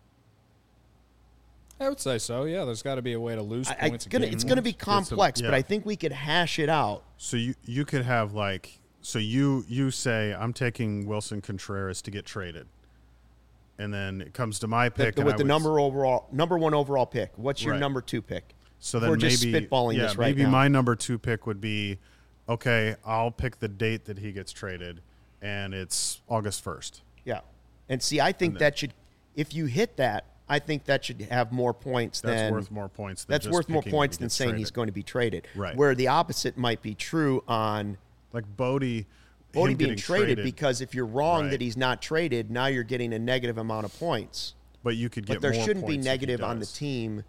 I would say so, yeah. There's got to be a way to lose points.
It's going to be complex, but I think we could hash it out.
So you could have like, so you say, I'm taking Wilson Contreras to get traded. And then it comes to my pick.
With the number 1 overall pick. What's your number 2 pick?
So then
we're just spitballing this right now.
Maybe my number 2 pick would be, okay, I'll pick the date that he gets traded, and it's August 1st.
Yeah. And see, I think that should, if you hit that, I think that should have more points than...
That's worth more points than
That's worth more points than saying he's going to be traded.
Right.
Where the opposite might be true on...
Like Bodie
being traded, because if you're wrong that he's not traded, now you're getting a negative amount of points.
But you could get
more points. But there shouldn't be
points
negative on the team.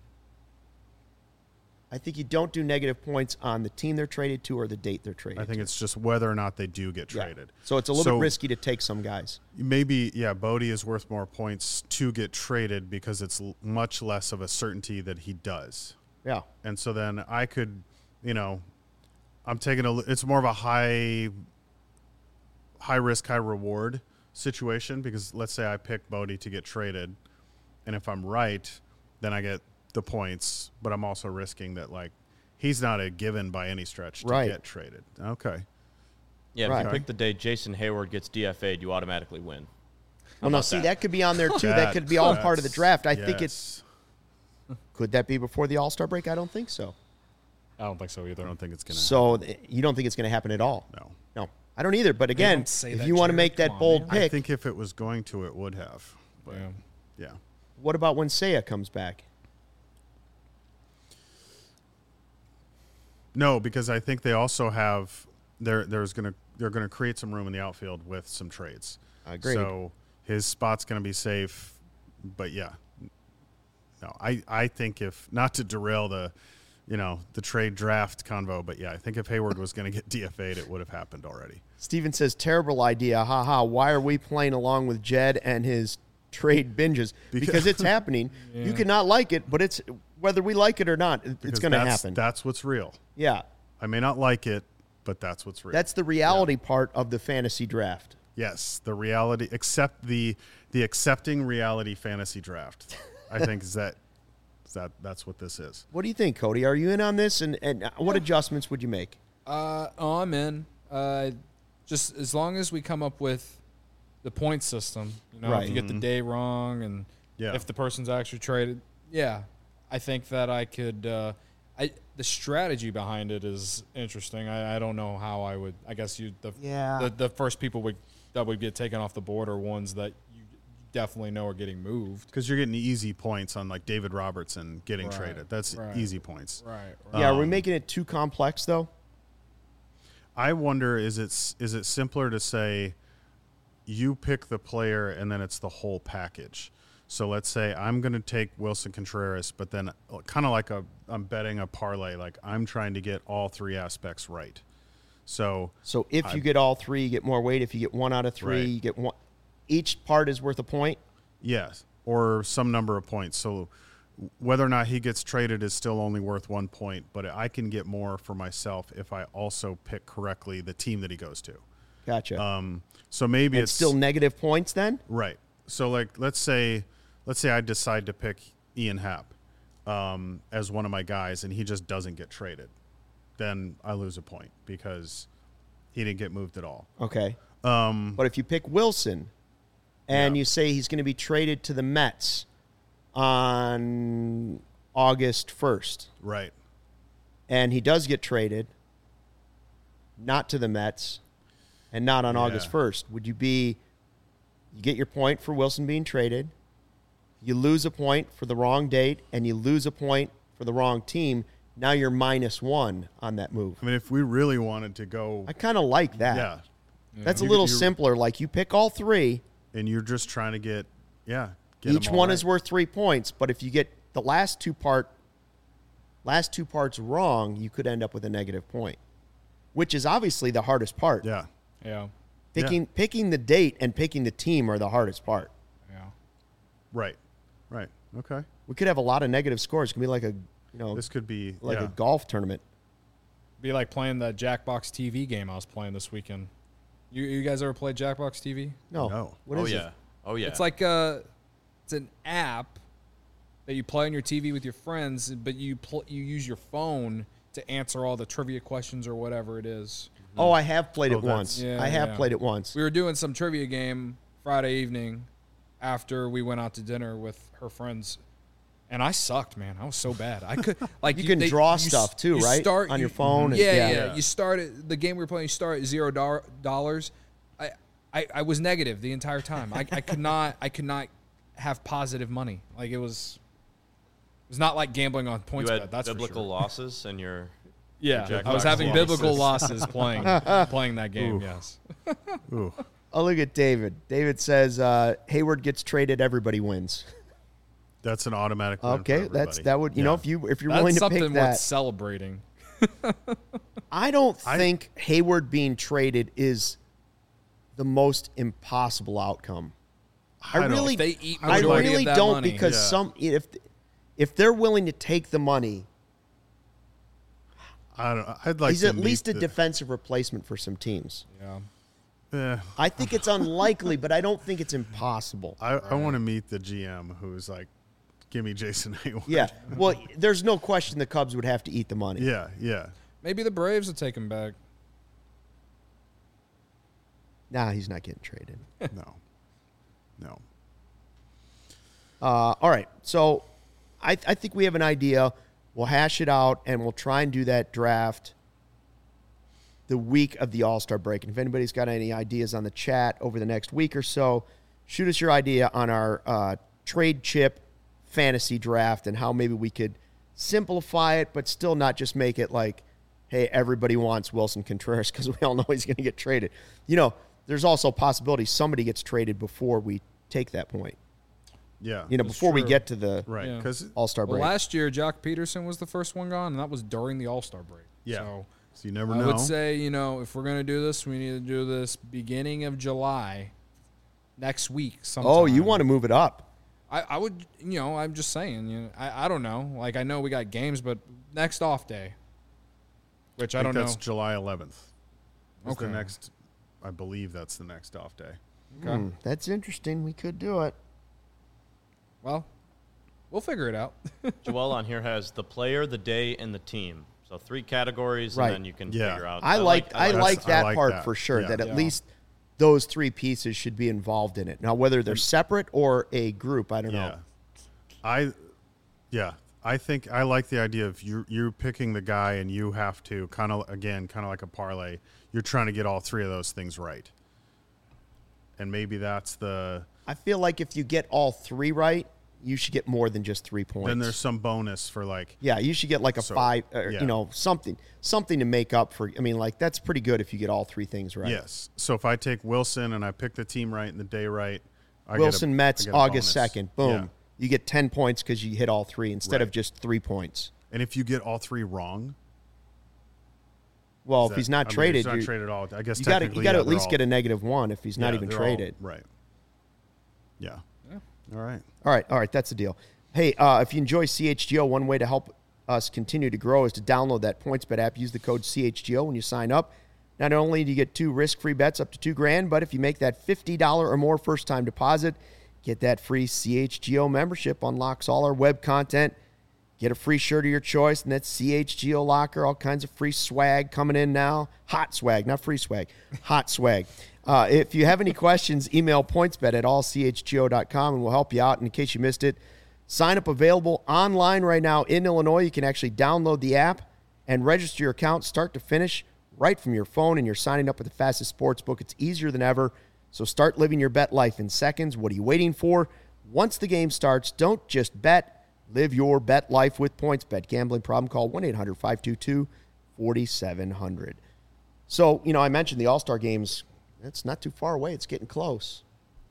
I think you don't do negative points on the team they're traded to or the date they're traded to.
I think it's just whether or not they do get traded.
Yeah. So it's a little bit risky to take some guys.
Maybe, Bodie is worth more points to get traded because it's much less of a certainty that he does.
Yeah.
And so then I could, I'm taking it's more of a high risk, high reward situation, because let's say I pick Bodie to get traded, and if I'm right, then I get the points, but I'm also risking that, like, he's not a given by any stretch to get traded. Okay.
Yeah, if you pick the day Jason Hayward gets DFA'd, you automatically win.
Well, no, see, that could be on there, too. That could be all part of the draft. I think it's... Could that be before the All-Star break? I don't think so.
I don't think so either.
I don't think it's going to
happen. So you don't think it's going to happen at all?
No.
I don't either. But again, if you want to make that bold pick...
I think if it was going to, it would have. But yeah.
What about when Seiya comes back?
No, because I think they also have they're going to create some room in the outfield with some trades.
Agreed.
So his spot's going to be safe, but no, I think if not to derail the trade draft convo, but I think if Hayward was going to get DFA'd, it would have happened already.
Steven says, terrible idea. Ha. Why are we playing along with Jed and his trade binges? Because it's happening. Yeah. You cannot like it, but it's whether we like it or not, it's going to happen.
That's what's real.
Yeah.
I may not like it, but that's what's real.
That's the reality part of the fantasy draft.
Yes, the reality, except the accepting reality fantasy draft. I think that's what this is.
What do you think, Cody? Are you in on this? And what adjustments would you make?
I'm in. Just as long as we come up with the point system, if you get the day wrong and if the person's actually traded, I think that I could. The strategy behind it is interesting. I don't know how I would. I guess the first people that would get taken off the board are ones that you definitely know are getting moved,
because you're getting easy points on like David Robertson getting traded. That's easy points.
Right.
Yeah. Are we making it too complex though?
I wonder, is it simpler to say you pick the player and then it's the whole package? So let's say I'm going to take Wilson Contreras, but then kind of like I'm betting a parlay, like I'm trying to get all three aspects right. So
if you get all three, you get more weight. If you get 1 out of 3, you get one. Each part is worth a point?
Yes, or some number of points. So whether or not he gets traded is still only worth 1 point, but I can get more for myself if I also pick correctly the team that he goes to.
Gotcha.
So maybe it's
still negative points then?
Right. So like let's say I decide to pick Ian Happ as one of my guys and he just doesn't get traded. Then I lose a point because he didn't get moved at all.
Okay. But if you pick Wilson and you say he's going to be traded to the Mets on August 1st.
Right.
And he does get traded, not to the Mets, and not on August 1st. Would you get your point for Wilson being traded, you lose a point for the wrong date, and you lose a point for the wrong team, now you're -1 on that move.
I mean, if we really wanted to go...
I kind of like that.
Yeah.
That's a little simpler. Like, you pick all 3.
And you're just trying to get
each one
right.
is worth 3 points, but if you get the last two parts wrong, you could end up with a negative point, which is obviously the hardest part.
Yeah.
Yeah.
Picking the date and picking the team are the hardest part.
Yeah.
Right. Okay.
We could have a lot of negative scores. It could be like
this could be
like a golf tournament.
Be like playing the Jackbox TV game I was playing this weekend. You guys ever played Jackbox TV?
No.
What is it?
Oh yeah.
It's like it's an app that you play on your TV with your friends, but you use your phone to answer all the trivia questions or whatever it is.
Oh, I have played it once.
Yeah,
I have played it once.
We were doing some trivia game Friday evening after we went out to dinner with her friends, and I sucked, man. I was so bad. I could like
you can draw stuff too, right? On your phone.
Yeah. You start the game we were playing. You start at $0. I was negative the entire time. I could not have positive money. Like it was not like gambling on points.
You had
that's
biblical losses and your
I was having biblical losses playing that game.
Ooh.
Yes.
Ooh.
Oh, look at David. David says Hayward gets traded, everybody wins.
That's an automatic win.
Okay,
for
that would if you're
that's
willing to
something
pick that.
worth celebrating.
I don't think Hayward being traded is the most impossible outcome. I really don't
money.
Because if they're willing to take the money,
I don't know. I'd like.
He's at least a defensive replacement for some teams.
Yeah.
I think it's unlikely, but I don't think it's impossible.
I want to meet the GM who's like, give me Jason Hayward.
Yeah. Well, there's no question the Cubs would have to eat the money.
Yeah.
Maybe the Braves will take him back.
Nah, he's not getting traded.
No.
All right. So I think we have an idea. We'll hash it out, and we'll try and do that draft the week of the All-Star break. And if anybody's got any ideas on the chat over the next week or so, shoot us your idea on our trade chip fantasy draft and how maybe we could simplify it, but still not just make it like, hey, everybody wants Wilson Contreras because we all know he's going to get traded. There's also a possibility somebody gets traded before we take that point.
Yeah.
Before we get to the All-Star break.
Well, last year, Jock Peterson was the first one gone, and that was during the All-Star break.
Yeah.
So
you never know.
I would say, if we're going to do this, we need to do this beginning of July, next week sometime.
Oh, you want to move it up.
I would, I'm just saying, I don't know. Like, I know we got games, but next off day, which I don't know.
That's July 11th.
Okay.
I believe that's the next off day.
Okay.
That's interesting. We could do it.
Well, we'll figure it out.
Joel on here has the player, the day, and the team. So 3 categories,
right.
And then you can figure out.
I like that part for sure,
yeah.
that at least those 3 pieces should be involved in it. Now, whether they're separate or a group, I don't know.
I think I like the idea of you picking the guy and you have to kind of like a parlay. You're trying to get all three of those things right. And maybe that's the...
I feel like if you get all three right, you should get more than just 3 points.
Then there's some bonus for like...
Yeah, you should get like a 5, something to make up for... I mean, like, that's pretty good if you get all three things right.
Yes. So if I take Wilson and I pick the team right and the day right,
Wilson, Mets, August 2nd. Boom.
Yeah.
You get 10 points because you hit all three instead of just 3 points.
And if you get all three wrong...
Well, if he's not traded...
He's not traded at all. I guess
you got to at least get a -1 if he's not even traded.
Right. Yeah. All right. That's
the deal. Hey, if you enjoy CHGO, one way to help us continue to grow is to download that PointsBet app. Use the code CHGO when you sign up. Not only do you get 2 risk-free bets up to $2,000, but if you make that $50 or more first-time deposit, get that free CHGO membership. Unlocks all our web content. Get a free shirt of your choice, and that's CHGO Locker. All kinds of free swag coming in now. Hot swag, not free swag. Hot swag. If you have any questions, email pointsbet@allchgo.com, and we'll help you out. And in case you missed it, sign up available online right now in Illinois. You can actually download the app and register your account start to finish right from your phone, and you're signing up with the fastest sports book. It's easier than ever. So start living your bet life in seconds. What are you waiting for? Once the game starts, don't just bet. Live your bet life with PointsBet. Gambling problem? Call 1-800-522-4700. So, I mentioned the All-Star games. It's not too far away. It's getting close.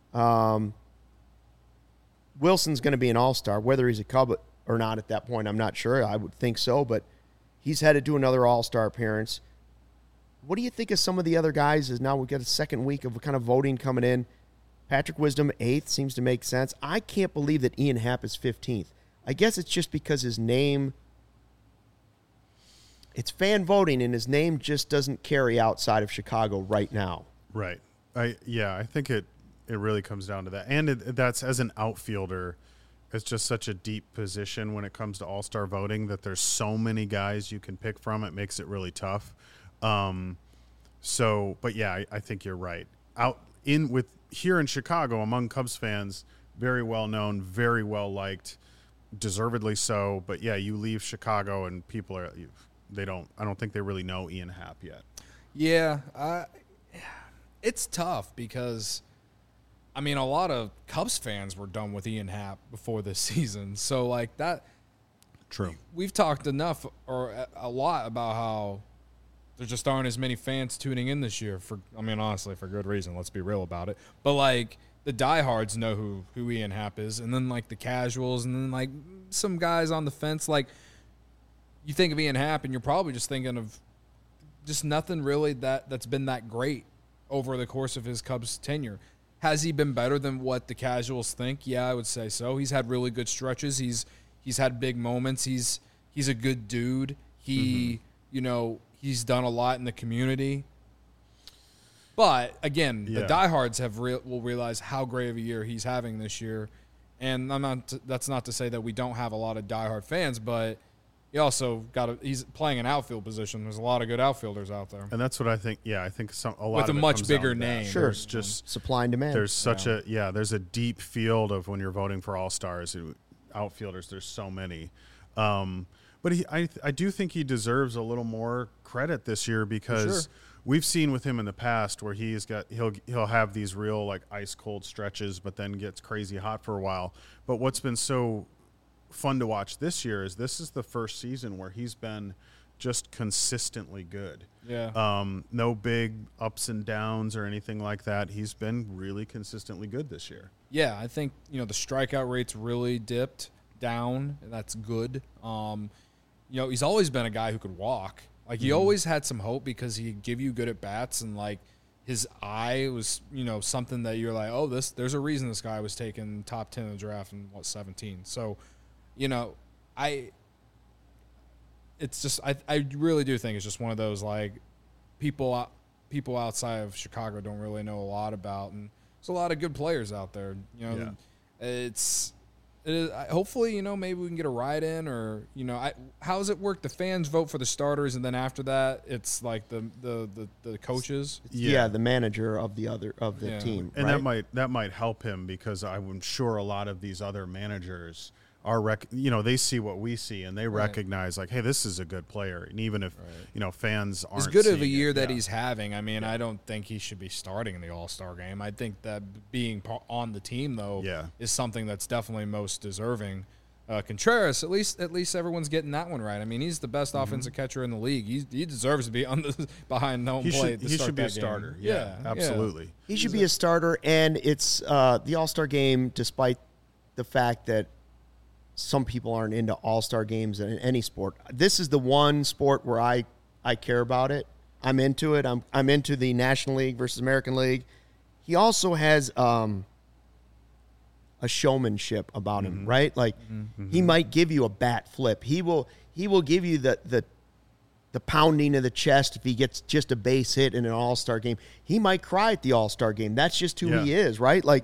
Wilson's going to be an All-Star. Whether he's a Cub or not at that point, I'm not sure. I would think so, but he's headed to another All-Star appearance. What do you think of some of the other guys? As now we've got a second week of kind of voting coming in. Patrick Wisdom, 8th, seems to make sense. I can't believe that Ian Happ is 15th. I guess it's just because his name, it's fan voting, and his name just doesn't carry outside of Chicago right now.
Right. I think it really comes down to that. And that's, as an outfielder, it's just such a deep position when it comes to all-star voting that there's so many guys you can pick from. It makes it really tough. I think you're right. Here in Chicago, among Cubs fans, very well known, very well liked, deservedly so. But yeah, you leave Chicago and people I don't think they really know Ian Happ yet.
Yeah, it's tough because, a lot of Cubs fans were done with Ian Happ before this season. So like that.
True.
We've talked enough or a lot about how there just aren't as many fans tuning in this year honestly, for good reason. Let's be real about it. But like the diehards know who Ian Happ is, and then like the casuals, and then like some guys on the fence. Like you think of Ian Happ, and you're probably just thinking of just nothing really that's been that great over the course of his Cubs tenure. Has he been better than what the casuals think? Yeah, I would say so. He's had really good stretches. He's had big moments. He's a good dude. He's done a lot in the community. But again, the diehards will realize how great of a year he's having this year. And that's not to say that we don't have a lot of diehard fans, but he also he's playing an outfield position. There's a lot of good outfielders out there.
And that's what I think. Yeah, I think a lot
with a much bigger name.
Sure, it's just supply and demand.
There's there's a deep field of when you're voting for all-stars, outfielders. There's so many. But I do think he deserves a little more credit this year because we've seen with him in the past where he'll have these real like ice cold stretches, but then gets crazy hot for a while. But what's been so fun to watch this year is this is the first season where he's been just consistently good.
Yeah.
No big ups and downs or anything like that. He's been really consistently good this year.
Yeah, I think the strikeout rate's really dipped down. That's good. He's always been a guy who could walk. Like he always had some hope because he'd give you good at bats, and like his eye was, something that you're like, oh, there's a reason this guy was taken top 10 in the draft in 17. So, I really do think it's just one of those like people outside of Chicago don't really know a lot about, and there's a lot of good players out there. Hopefully, maybe we can get a ride in, or how does it work? The fans vote for the starters, and then after that, it's like the coaches.
Yeah, the manager of the team,
and
right?
that might help him because I'm sure a lot of these other managers they see what we see and they recognize like, hey, this is a good player. And even if, fans aren't
as good of a
seeing
year
it,
that he's having, I mean, I don't think he should be starting in the All-Star game. I think that being on the team, though, is something that's definitely most deserving. Contreras, at least everyone's getting that one right. I mean, he's the best offensive catcher in the league. He deserves to be behind home plate.
He should be a starter. Yeah, absolutely.
Yeah. He should be a starter, and it's the All-Star game, despite the fact that some people aren't into all-star games in any sport. This is the one sport where I care about it. I'm into it. I'm into the National League versus American League. He also has a showmanship about him, right? Like he might give you a bat flip. He will give you the pounding of the chest if he gets just a base hit in an all-star game. He might cry at the all-star game. That's just who he is, right? Like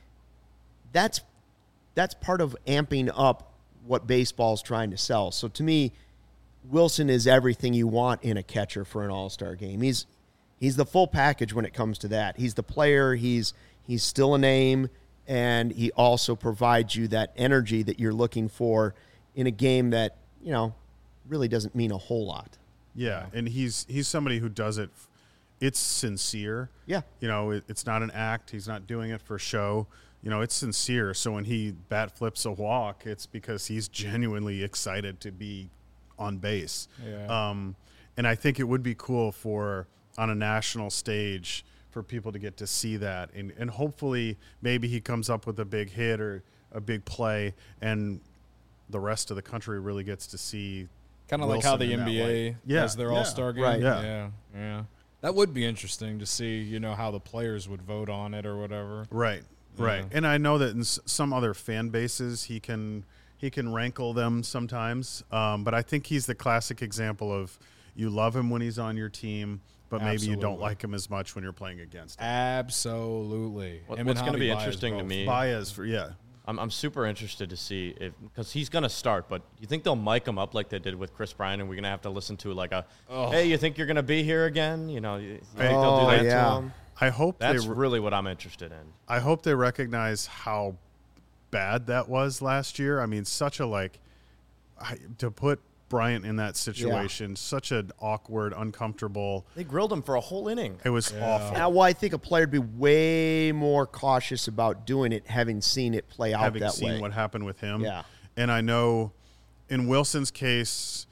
that's part of amping up what baseball's trying to sell. So to me, Wilson is everything you want in a catcher for an all-star game. He's the full package when it comes to that. He's the player. He's still a name, and he also provides you that energy that you're looking for in a game that, really doesn't mean a whole lot.
Yeah, and he's somebody who does it. It's sincere.
Yeah.
It's not an act. He's not doing it for show. It's sincere. So when he bat flips a walk, it's because he's genuinely excited to be on base.
Yeah.
And I think it would be cool on a national stage for people to get to see that. And hopefully maybe he comes up with a big hit or a big play and the rest of the country really gets to see
kind of like how the NBA has their All-Star game.
Right.
Yeah. That would be interesting to see, how the players would vote on it or whatever.
Right. Right, and I know that in some other fan bases he can rankle them sometimes, but I think he's the classic example of you love him when he's on your team, but maybe you don't like him as much when you're playing against him.
Absolutely.
What's going to be interesting to me?
Baez,
I'm super interested to see because he's going to start, but you think they'll mic him up like they did with Chris Bryant, and we're going to have to listen to like hey, you think you're going to be here again? You think they'll do that to him?
I hope
that's really what I'm interested in.
I hope they recognize how bad that was last year. I mean, such a to put Bryant in that situation, such an awkward, uncomfortable.
They grilled him for a whole inning.
It was awful.
Well, I think a player would be way more cautious about doing it, having seen it play out that way.
Having seen what happened with him.
Yeah.
And I know in Wilson's case,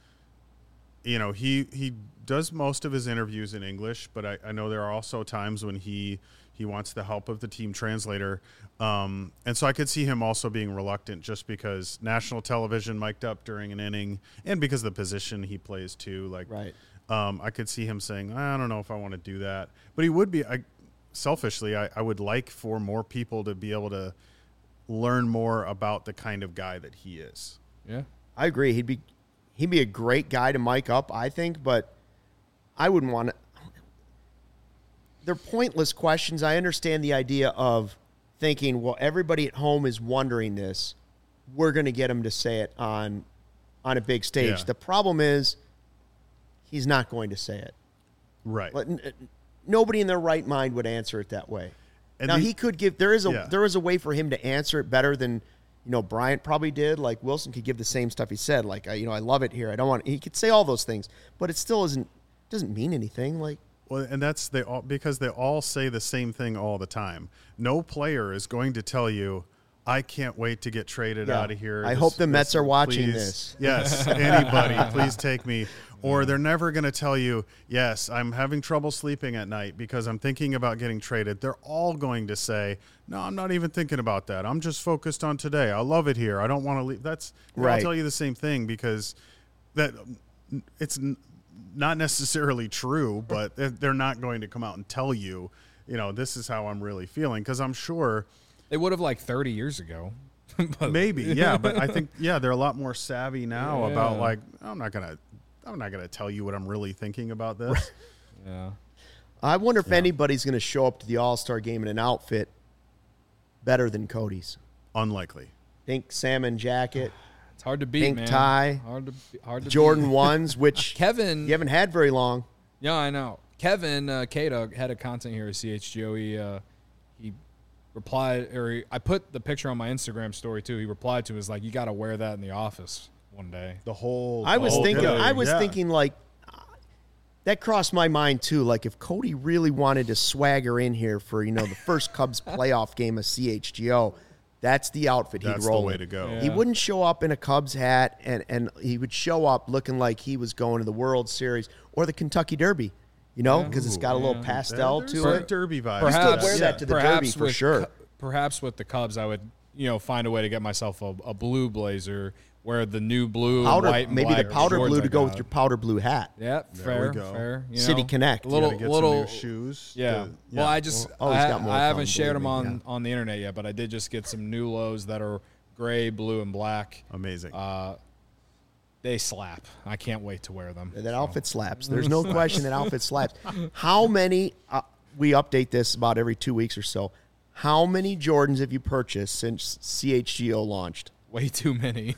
he does most of his interviews in English, but I know there are also times when he wants the help of the team translator. And so I could see him also being reluctant just because national television mic'd up during an inning and because of the position he plays too. I could see him saying, I don't know if I want to do that. But he would be, selfishly, I would like for more people to be able to learn more about the kind of guy that he is.
Yeah.
I agree. He'd be a great guy to mic up, I think, but I wouldn't want to. They're pointless questions. I understand the idea of thinking, well, everybody at home is wondering this. We're going to get him to say it on a big stage.
Yeah.
The problem is he's not going to say it.
Right.
Nobody in their right mind would answer it that way.
And
now, he could give – there is a way for him to answer it better than – Bryant probably did. Like Wilson could give the same stuff he said. Like, I love it here. I don't want. He could say all those things, but it still doesn't mean anything. Like,
well, and that's because they all say the same thing all the time. No player is going to tell you, I can't wait to get traded out of here.
I hope the Mets are watching this.
Yes, anybody, please take me. Or they're never going to tell you, yes, I'm having trouble sleeping at night because I'm thinking about getting traded. They're all going to say, no, I'm not even thinking about that. I'm just focused on today. I love it here. I don't want to leave. They'll tell you the same thing because it's not necessarily true, but they're not going to come out and tell you, this is how I'm really feeling because I'm sure
they would have 30 years ago.
Maybe, yeah, but I think they're a lot more savvy now about I'm not gonna tell you what I'm really thinking about this.
Yeah.
I wonder if anybody's going to show up to the All-Star game in an outfit better than Cody's.
Unlikely.
Pink salmon jacket.
It's hard to beat,
pink
man.
tie.
Hard to
Jordan
beat.
1s, which
Kevin
you haven't had very long.
Yeah, I know. Kevin K-Dog, head of content here at CHGO. He I put the picture on my Instagram story too. He replied to it, was like, you got to wear that in the office one day.
I was thinking like, that crossed my mind too. Like if Cody really wanted to swagger in here for, the first Cubs playoff game of CHGO, that's the outfit he'd roll.
That's the way to go.
Yeah. He wouldn't show up in a Cubs hat, and he would show up looking like he was going to the World Series or the Kentucky Derby, because it's got a little pastel to it.
Derby vibe.
Perhaps wear that to the Derby for sure.
Perhaps with the Cubs, I would, find a way to get myself a blue blazer, where the new blue, white, and
maybe
black
the powder blue to go with your powder blue hat.
Yeah, fair.
City Connect.
Little new shoes.
Yeah. Well, I haven't shared them on the internet yet, but I did just get some new lows that are gray, blue, and black.
Amazing.
They slap. I can't wait to wear them.
That outfit slaps. There's no question that outfit slaps. How many? We update this about every 2 weeks or so. How many Jordans have you purchased since CHGO launched?
Way too many.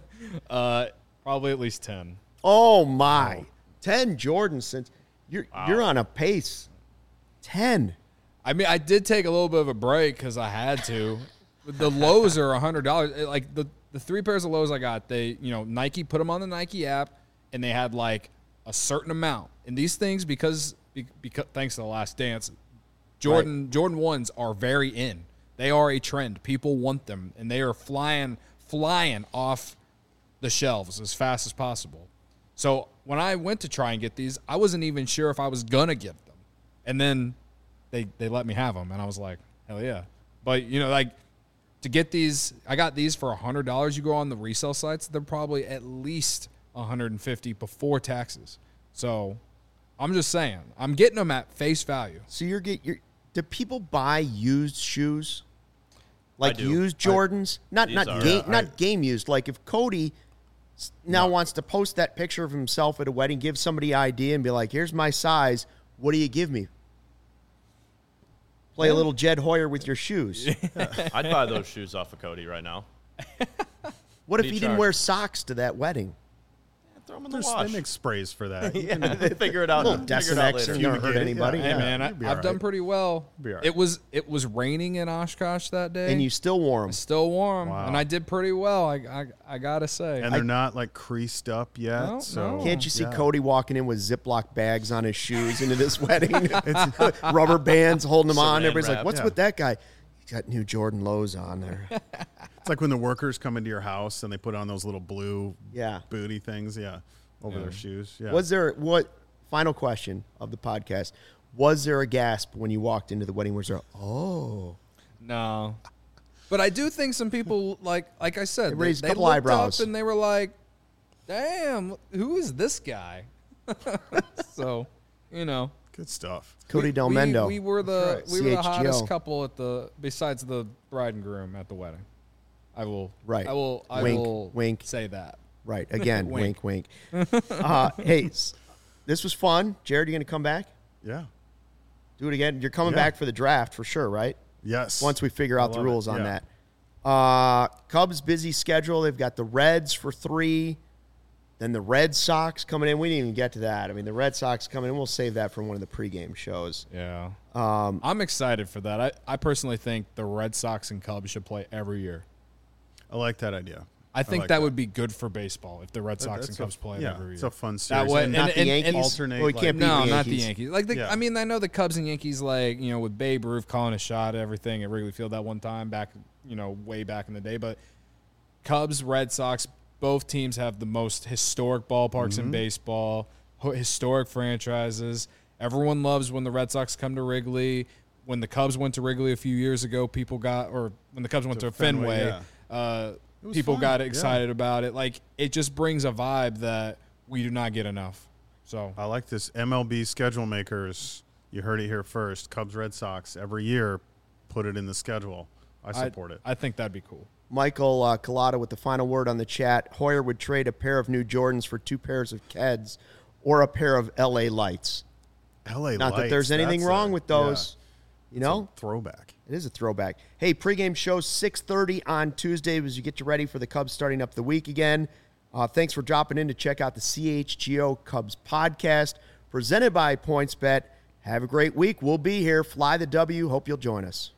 Probably at least 10.
Oh my. 10 Jordans since you're on a pace. 10.
I mean, I did take a little bit of a break because I had to. The lows are $100. Like the 3 pairs of lows I got, they, Nike put them on the Nike app, and they had like a certain amount. And these things, because thanks to The Last Dance, Jordan 1s are very in. They are a trend. People want them, and they are flying off the shelves as fast as possible. So when I went to try and get these, I wasn't even sure if I was going to get them. And then they let me have them, and I was like, hell yeah. But, to get these, I got these for $100. You go on the resale sites, they're probably at least $150 before taxes. So I'm just saying, I'm getting them at face value.
So do people buy used shoes? Like used Jordans? Not game used. Like if Cody wants to post that picture of himself at a wedding, give somebody an idea and be like, here's my size. What do you give me? Play a little Jed Hoyer with your shoes.
I'd buy those shoes off of Cody right now.
What if he didn't wear socks to that wedding?
Throw them in the wash. They make sprays for that.
They figure it out.
Desinex ain't gonna hurt anybody.
Hey man, I've done pretty well. It was raining in Oshkosh that day,
and you still wore them.
Still wore them, and I did pretty well. I gotta say.
And they're not like creased up yet. No, so
can't you see Cody walking in with Ziploc bags on his shoes into this wedding? It's rubber bands holding them on. Everybody's like, "What's with that guy? He's got new Jordan lows on there."
It's like when the workers come into your house and they put on those little blue booty things, over their shoes. Yeah.
Final question of the podcast, was there a gasp when you walked into the wedding? Was there
No. But I do think some people, like I said,
they raised a couple
looked
eyebrows
up and they were like, damn, who is this guy? So,
good stuff.
Cody Del Mendo.
We were the hottest couple besides the bride and groom at the wedding. I will wink say that.
Right. Again, wink, wink. Hey, this was fun. Jared, you going to come back?
Yeah.
Do it again. You're coming back for the draft for sure, right?
Yes.
Once we figure out the rules on that. Cubs busy schedule. They've got the Reds for 3. Then the Red Sox coming in. We didn't even get to that. I mean, the Red Sox coming in. We'll save that for one of the pregame shows.
Yeah. I'm excited for that. I personally think the Red Sox and Cubs should play every year.
I like that idea.
I think that would be good for baseball if the Red Sox and Cubs play every year.
It's a fun series.
That way, not the Yankees.
Alternate.
Well,
not the Yankees. I mean, I know the Cubs and Yankees, with Babe Ruth calling a shot at everything at Wrigley Field that one time back, way back in the day. But Cubs, Red Sox, both teams have the most historic ballparks in baseball, historic franchises. Everyone loves when the Red Sox come to Wrigley. When the Cubs went to Wrigley a few years ago, when the Cubs went to Fenway, people got excited about it. Like, it just brings a vibe that we do not get enough. So
I like this. MLB schedule makers, you heard it here first. Cubs, Red Sox, every year, put it in the schedule. I support it.
I think that'd be cool.
Michael Collada with the final word on the chat. Hoyer would trade a pair of new Jordans for 2 pairs of Keds or a pair of LA Lights. Not that there's anything wrong with those.
It's a throwback.
It is a throwback. Hey, pregame show 6:30 on Tuesday as you get you ready for the Cubs starting up the week again. Thanks for dropping in to check out the CHGO Cubs podcast presented by PointsBet. Have a great week. We'll be here. Fly the W. Hope you'll join us.